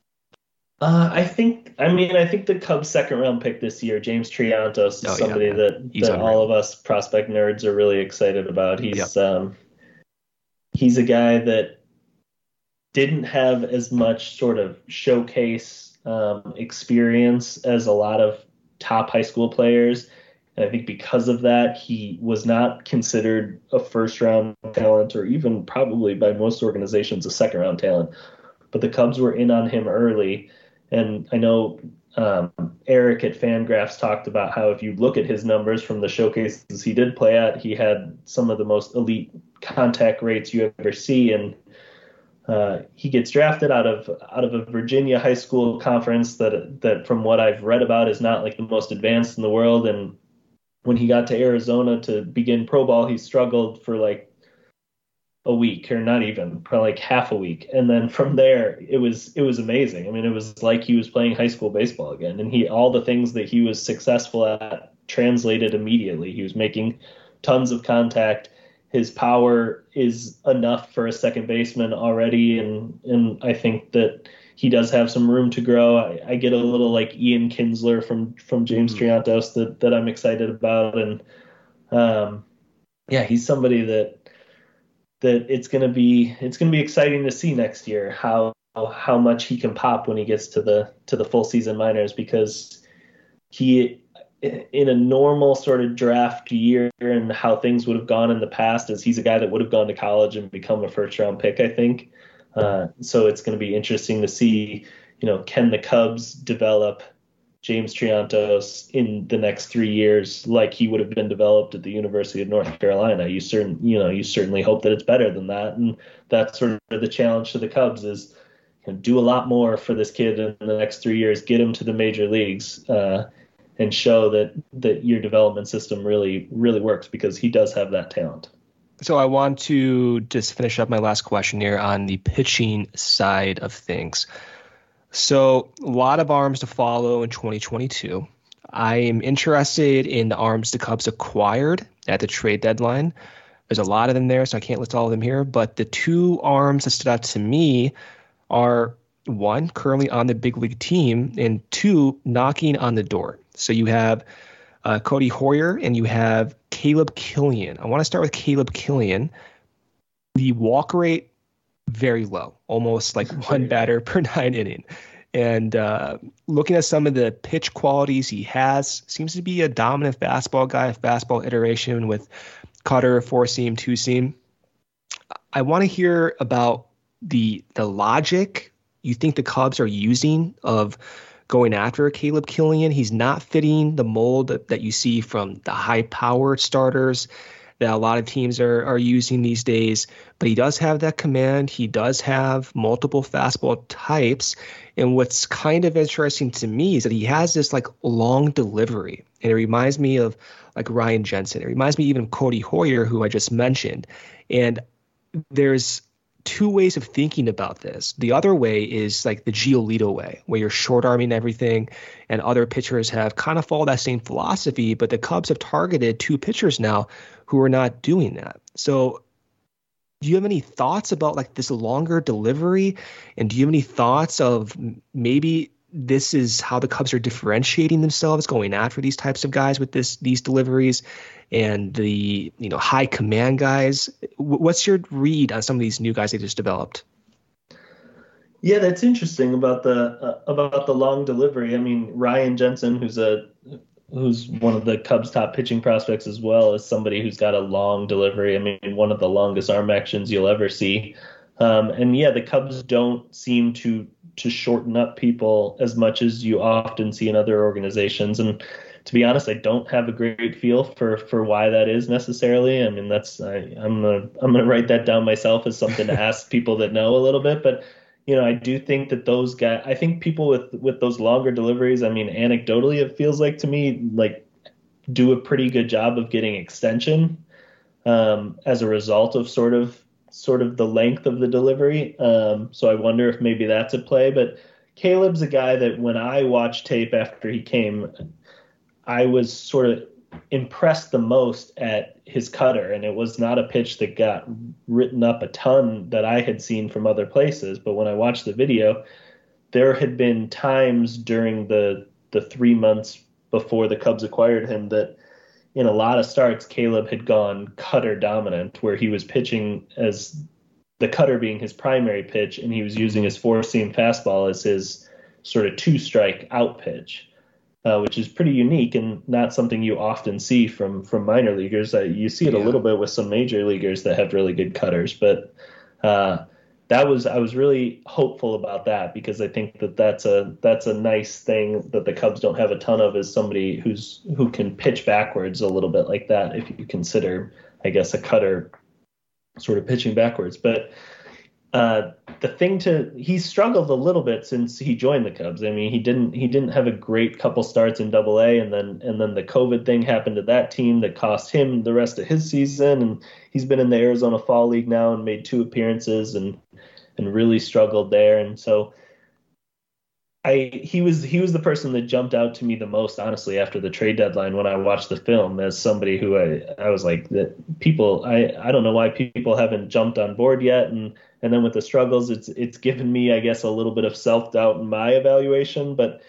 Uh, I think, I mean, I think the Cubs' second round pick this year, James Triantos, is oh, somebody yeah, that, that all of us prospect nerds are really excited about. He's yep. um, he's a guy that didn't have as much sort of showcase um, experience as a lot of top high school players. And I think because of that, he was not considered a first round talent, or even probably by most organizations a second round talent. But the Cubs were in on him early. And I know um, Eric at Fangraphs talked about how if you look at his numbers from the showcases he did play at, he had some of the most elite contact rates you ever see. And uh, he gets drafted out of out of a Virginia high school conference that that from what I've read about is not like the most advanced in the world. And when he got to Arizona to begin pro ball, he struggled for like a week, or not even, probably like half a week. And then from there, it was it was amazing. I mean, it was like he was playing high school baseball again. And he all the things that he was successful at translated immediately. He was making tons of contact. His power is enough for a second baseman already. And, and I think that he does have some room to grow. I, I get a little like Ian Kinsler from, from James mm-hmm. Triantos that, that I'm excited about. And um, yeah, he's somebody that, that it's going to be, it's going to be exciting to see next year how, how much he can pop when he gets to the, to the full season minors, because he, in a normal sort of draft year and how things would have gone in the past, is he's a guy that would have gone to college and become a first round pick, I think. Uh, so it's going to be interesting to see, you know, can the Cubs develop James Triantos in the next three years like he would have been developed at the University of North Carolina? You certain, you know, you certainly hope that it's better than that, and that's sort of the challenge to the Cubs is, you know, do a lot more for this kid in the next three years, get him to the major leagues, uh, and show that that your development system really really works, because he does have that talent. So I want to just finish up my last question here on the pitching side of things. So a lot of arms to follow in twenty twenty-two. I am interested in the arms the Cubs acquired at the trade deadline. There's a lot of them there, so I can't list all of them here. But the two arms that stood out to me are, one, currently on the big league team, and two, knocking on the door. So you have uh, Cody Hoyer and you have Caleb Killian. I want to start with Caleb Killian. The walk rate, very low, almost like one batter per nine inning. And uh, looking at some of the pitch qualities he has, seems to be a dominant fastball guy, a fastball iteration with cutter, four seam, two seam. I want to hear about the the logic you think the Cubs are using of going after Caleb Killian. He's not fitting the mold that, that you see from the high-powered starters that a lot of teams are, are using these days. But he does have that command. He does have multiple fastball types. And what's kind of interesting to me is that he has this like long delivery. And it reminds me of like Ryan Jensen. It reminds me even of Cody Hoyer, who I just mentioned. And there's two ways of thinking about this. The other way is like the Giolito way, where you're short arming everything, and other pitchers have kind of followed that same philosophy, but the Cubs have targeted two pitchers now who are not doing that. So do you have any thoughts about like this longer delivery? And do you have any thoughts of maybe this is how the Cubs are differentiating themselves, going after these types of guys with this these deliveries and the, you know, high command guys? What's your read on some of these new guys they just developed? Yeah, that's interesting about the uh, about the long delivery. I mean, Ryan Jensen, who's a who's one of the Cubs' top pitching prospects as well, is somebody who's got a long delivery. I mean, one of the longest arm actions you'll ever see. Um, and yeah, the Cubs don't seem to to shorten up people as much as you often see in other organizations. And to be honest, I don't have a great feel for, for why that is necessarily. I mean, that's I, I'm gonna I'm gonna write that down myself as something to ask people that know a little bit. But you know, I do think that those guys, I think people with with those longer deliveries, I mean, anecdotally, it feels like to me like do a pretty good job of getting extension um, as a result of sort of sort of the length of the delivery. Um, so I wonder if maybe that's at play. But Caleb's a guy that when I watched tape after he came, I was sort of impressed the most at his cutter. And it was not a pitch that got written up a ton that I had seen from other places. But when I watched the video, there had been times during the the three months before the Cubs acquired him that in a lot of starts, Caleb had gone cutter dominant, where he was pitching as the cutter being his primary pitch, and he was using his four-seam fastball as his sort of two-strike out pitch. uh, which is pretty unique and not something you often see from from minor leaguers. Uh, you see it yeah. a little bit with some major leaguers that have really good cutters, but uh, that was I was really hopeful about that because I think that that's a that's a nice thing that the Cubs don't have a ton of, is somebody who's who can pitch backwards a little bit like that, if you consider, I guess, a cutter sort of pitching backwards. But uh, the thing to he's struggled a little bit since he joined the Cubs. I mean, he didn't he didn't have a great couple starts in Double A, and then and then the COVID thing happened to that team that cost him the rest of his season. And he's been in the Arizona Fall League now and made two appearances and and really struggled there. And so I he was he was the person that jumped out to me the most, honestly, after the trade deadline when I watched the film, as somebody who I, I was like, that people I, I don't know why people haven't jumped on board yet. And and then with the struggles, it's it's given me, I guess, a little bit of self-doubt in my evaluation. But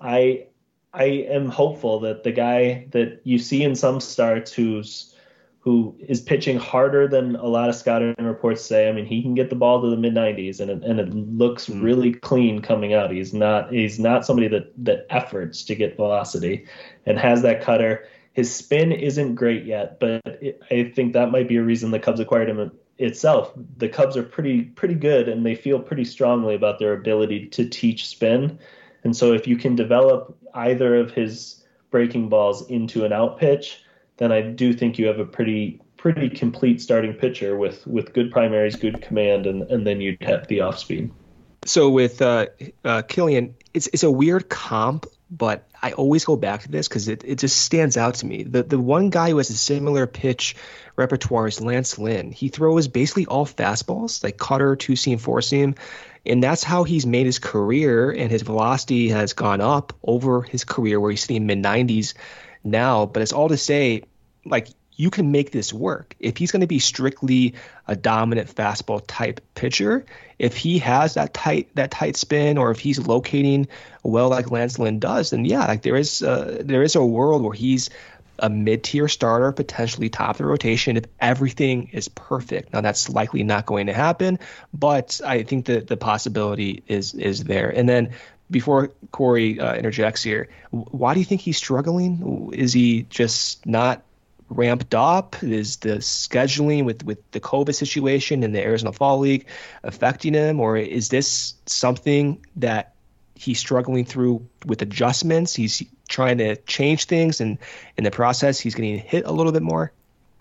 I I am hopeful that the guy that you see in some starts who's who is pitching harder than a lot of scouting reports say. I mean, he can get the ball to the mid nineties and it, and it looks really clean coming out. He's not he's not somebody that that efforts to get velocity and has that cutter. His spin isn't great yet, but it, I think that might be a reason the Cubs acquired him itself. The Cubs are pretty pretty good, and they feel pretty strongly about their ability to teach spin. And so if you can develop either of his breaking balls into an out pitch, then I do think you have a pretty pretty complete starting pitcher with, with good primaries, good command, and, and then you'd have the off speed. So with uh, uh, Killian, it's it's a weird comp, but I always go back to this because it, it just stands out to me. The the one guy who has a similar pitch repertoire is Lance Lynn. He throws basically all fastballs, like cutter, two-seam, four-seam, and that's how he's made his career, and his velocity has gone up over his career where he's sitting mid nineties now. But it's all to say, like, you can make this work. If he's going to be strictly a dominant fastball type pitcher, if he has that tight that tight spin, or if he's locating well like Lance Lynn does, then yeah, like there is uh, there is a world where he's a mid-tier starter, potentially top of the rotation if everything is perfect. Now that's likely not going to happen, but I think that the possibility is is there. And then before Corey uh, interjects here, why do you think he's struggling? Is he just not ramped up? Is the scheduling with, with the COVID situation in the Arizona Fall League affecting him? Or is this something that he's struggling through with adjustments? He's trying to change things, and in the process, he's getting hit a little bit more?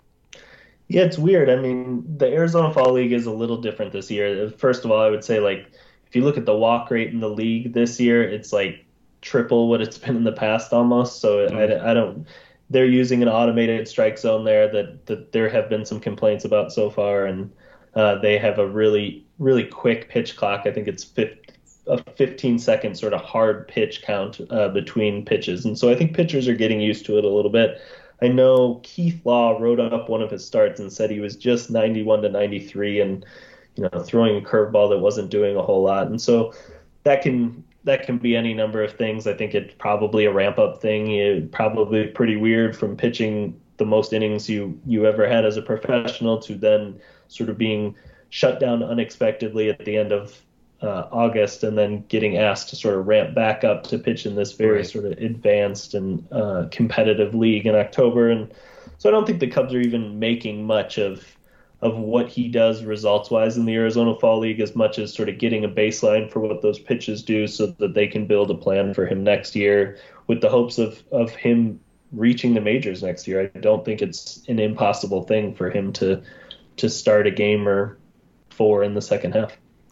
Yeah, it's weird. I mean, the Arizona Fall League is a little different this year. First of all, I would say, like, if you look at the walk rate in the league this year, it's like triple what it's been in the past almost. So mm-hmm. I, I don't – they're using an automated strike zone there that, that there have been some complaints about so far, and uh, they have a really, really quick pitch clock. I think it's fifty, a fifteen-second sort of hard pitch count uh, between pitches. And so I think pitchers are getting used to it a little bit. I know Keith Law wrote up one of his starts and said he was just ninety-one to ninety-three and – you know, throwing a curveball that wasn't doing a whole lot. And so that can that can be any number of things. I think it's probably a ramp-up thing. It's probably pretty weird from pitching the most innings you, you ever had as a professional to then sort of being shut down unexpectedly at the end of uh, August and then getting asked to sort of ramp back up to pitch in this very right. sort of advanced and uh, competitive league in October. And so I don't think the Cubs are even making much of of what he does results-wise in the Arizona Fall League, as much as sort of getting a baseline for what those pitches do so that they can build a plan for him next year with the hopes of, of him reaching the majors next year. I don't think it's an impossible thing for him to to start a game or four in the second half.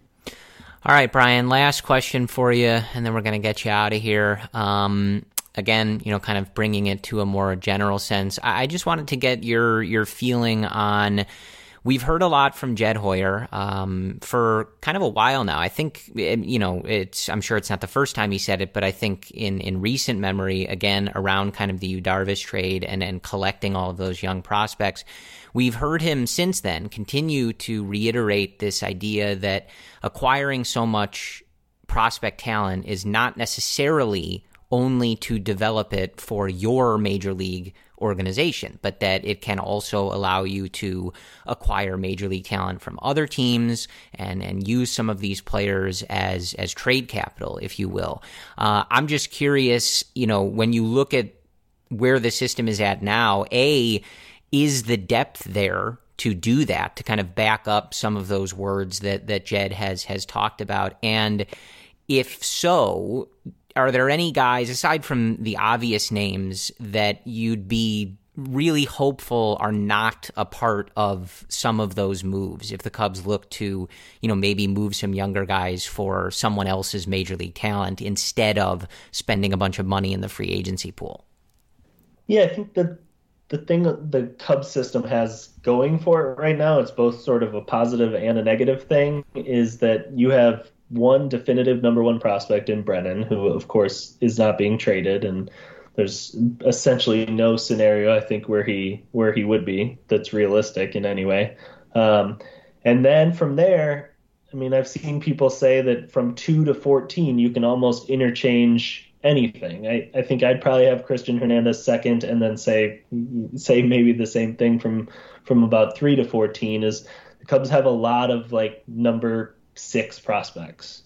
All right, Brian, last question for you, and then we're going to get you out of here. Um, again, you know, kind of bringing it to a more general sense. I, I just wanted to get your your feeling on... We've heard a lot from Jed Hoyer um, for kind of a while now. I think, you know, it's. I'm sure it's not the first time he said it, but I think in, in recent memory, again, around kind of the Yu Darvish trade and, and collecting all of those young prospects, we've heard him since then continue to reiterate this idea that acquiring so much prospect talent is not necessarily only to develop it for your major league organization, but that it can also allow you to acquire major league talent from other teams and, and use some of these players as, as trade capital, if you will. Uh, I'm just curious, you know, when you look at where the system is at now, A, is the depth there to do that, to kind of back up some of those words that, that Jed has, has talked about? And if so, are there any guys, aside from the obvious names, that you'd be really hopeful are not a part of some of those moves if the Cubs look to, you know, maybe move some younger guys for someone else's major league talent instead of spending a bunch of money in the free agency pool? Yeah, I think the the thing that the Cubs system has going for it right now, it's both sort of a positive and a negative thing, is that you have one definitive number one prospect in Brennan, who of course is not being traded, and there's essentially no scenario I think where he where he would be that's realistic in any way. Um, and then from there, I mean, I've seen people say that from two to fourteen you can almost interchange anything. I, I think I'd probably have Christian Hernandez second, and then say say maybe the same thing from from about three to fourteen. Is the Cubs have a lot of like number six prospects,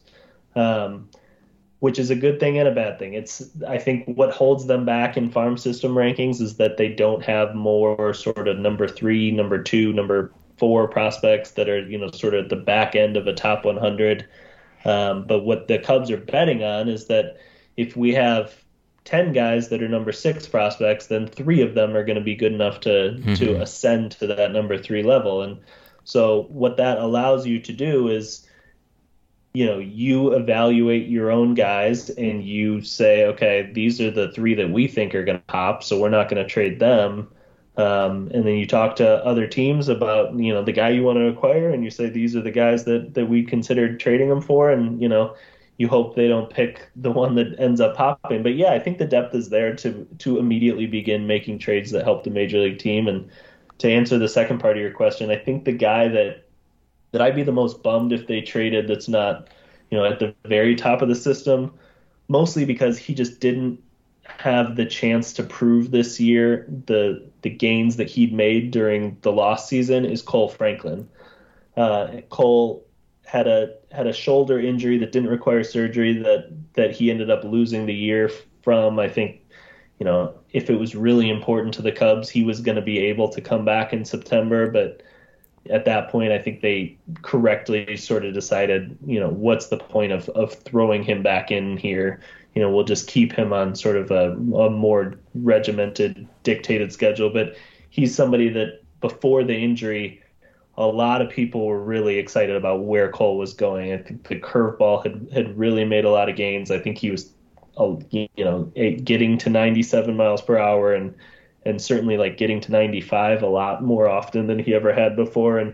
um, which is a good thing and a bad thing. It's, I think what holds them back in farm system rankings is that they don't have more sort of number three, number two, number four prospects that are, you know, sort of at the back end of a top one hundred. Um, but what the Cubs are betting on is that if we have ten guys that are number six prospects, then three of them are going to be good enough to, mm-hmm. to ascend to that number three level. And so what that allows you to do is, you know, you evaluate your own guys and you say, okay, these are the three that we think are going to pop, so we're not going to trade them. Um, and then you talk to other teams about, you know, the guy you want to acquire, and you say, these are the guys that, that we considered trading them for. And, you know, you hope they don't pick the one that ends up popping. But yeah, I think the depth is there to, to immediately begin making trades that help the major league team. And to answer the second part of your question, I think the guy that, that I'd be the most bummed if they traded that's not, you know, at the very top of the system, mostly because he just didn't have the chance to prove this year the the gains that he'd made during the lost season, is Cole Franklin. Uh, Cole had a had a shoulder injury that didn't require surgery that that he ended up losing the year from. I think, you know, if it was really important to the Cubs, he was going to be able to come back in September, but at that point, I think they correctly sort of decided, you know, what's the point of, of throwing him back in here? You know, we'll just keep him on sort of a, a more regimented, dictated schedule. But he's somebody that before the injury, a lot of people were really excited about where Cole was going. I think the curveball had, had really made a lot of gains. I think he was, you know, getting to ninety-seven miles per hour and and certainly like getting to ninety-five a lot more often than he ever had before. And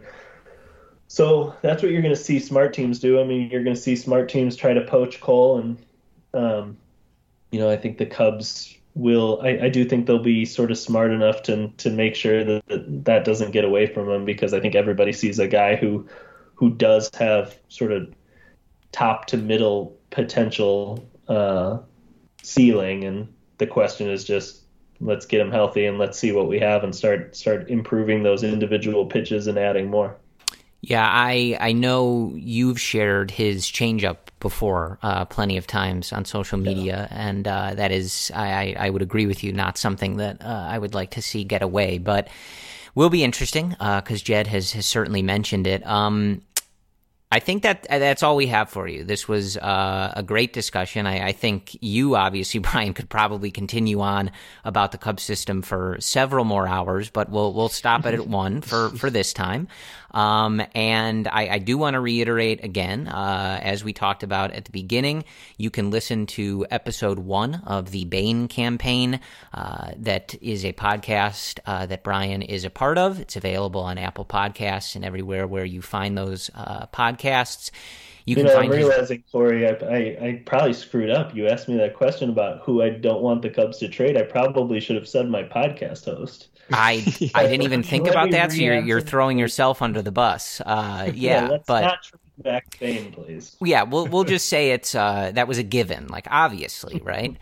so that's what you're going to see smart teams do. I mean, you're going to see smart teams try to poach Cole. And, um, you know, I think the Cubs will, I, I do think they'll be sort of smart enough to to make sure that, that that doesn't get away from them, because I think everybody sees a guy who, who does have sort of top to middle potential uh, ceiling. And the question is just, let's get him healthy and let's see what we have and start start improving those individual pitches and adding more. Yeah, I I know you've shared his changeup before uh, plenty of times on social media, yeah. and uh, that is, I, I would agree with you, not something that uh, I would like to see get away, but will be interesting because uh, Jed has, has certainly mentioned it. Um, I think that that's all we have for you. This was uh, a great discussion. I, I think you, obviously, Brian, could probably continue on about the Cubs system for several more hours, but we'll we'll stop it at one for, for this time. Um, and I, I do want to reiterate again, uh, as we talked about at the beginning, you can listen to episode one of the Bain campaign. Uh, that is a podcast uh, that Brian is a part of. It's available on Apple Podcasts and everywhere where you find those uh, podcasts. You, you can know, find I'm realizing, his... Corey, I, I, I probably screwed up. You asked me that question about who I don't want the Cubs to trade. I probably should have said my podcast host. I I didn't even think about that, so you're you're throwing yourself under the bus. Uh, yeah, yeah, let's but not try back Bain, please. Yeah, we'll we'll just say it's uh, that was a given, like obviously, right?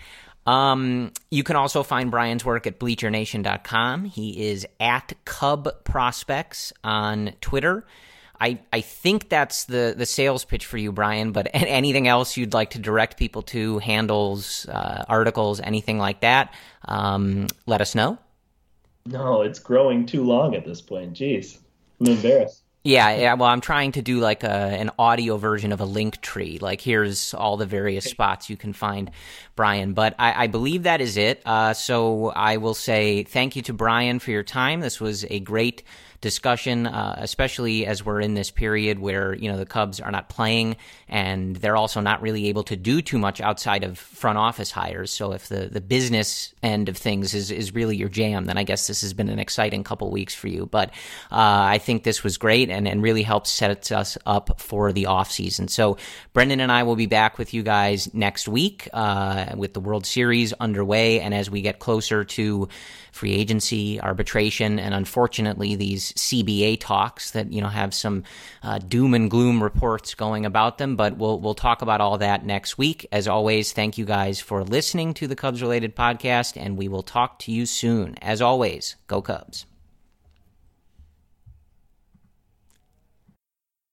Um, you can also find Brian's work at bleacher nation dot com. He is at Cub Prospects on Twitter. I, I think that's the, the sales pitch for you, Brian, but anything else you'd like to direct people to, handles, uh, articles, anything like that, um, let us know. No, it's growing too long at this point. Jeez, I'm embarrassed. Yeah, yeah. Well, I'm trying to do like a, an audio version of a link tree. Like, here's all the various spots you can find Brian. But I, I believe that is it. Uh, so I will say thank you to Brian for your time. This was a great discussion, uh, especially as we're in this period where, you know, the Cubs are not playing and they're also not really able to do too much outside of front office hires. So if the, the business end of things is, is really your jam, then I guess this has been an exciting couple weeks for you. But uh, I think this was great and, and really helps set us up for the off season. So Brendan and I will be back with you guys next week uh, with the World Series underway. And as we get closer to free agency, arbitration, and unfortunately these C B A talks that, you know, have some uh, doom and gloom reports going about them. But we'll we'll talk about all that next week. As always, thank you guys for listening to the Cubs Related podcast, and we will talk to you soon. As always, go Cubs.